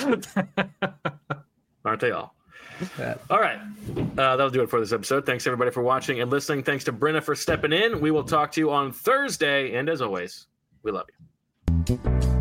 Aren't they all? Yeah. All right. Uh, that'll do it for this episode. Thanks, everybody, for watching and listening. Thanks to Brenna for stepping in. We will talk to you on Thursday. And as always, we love you.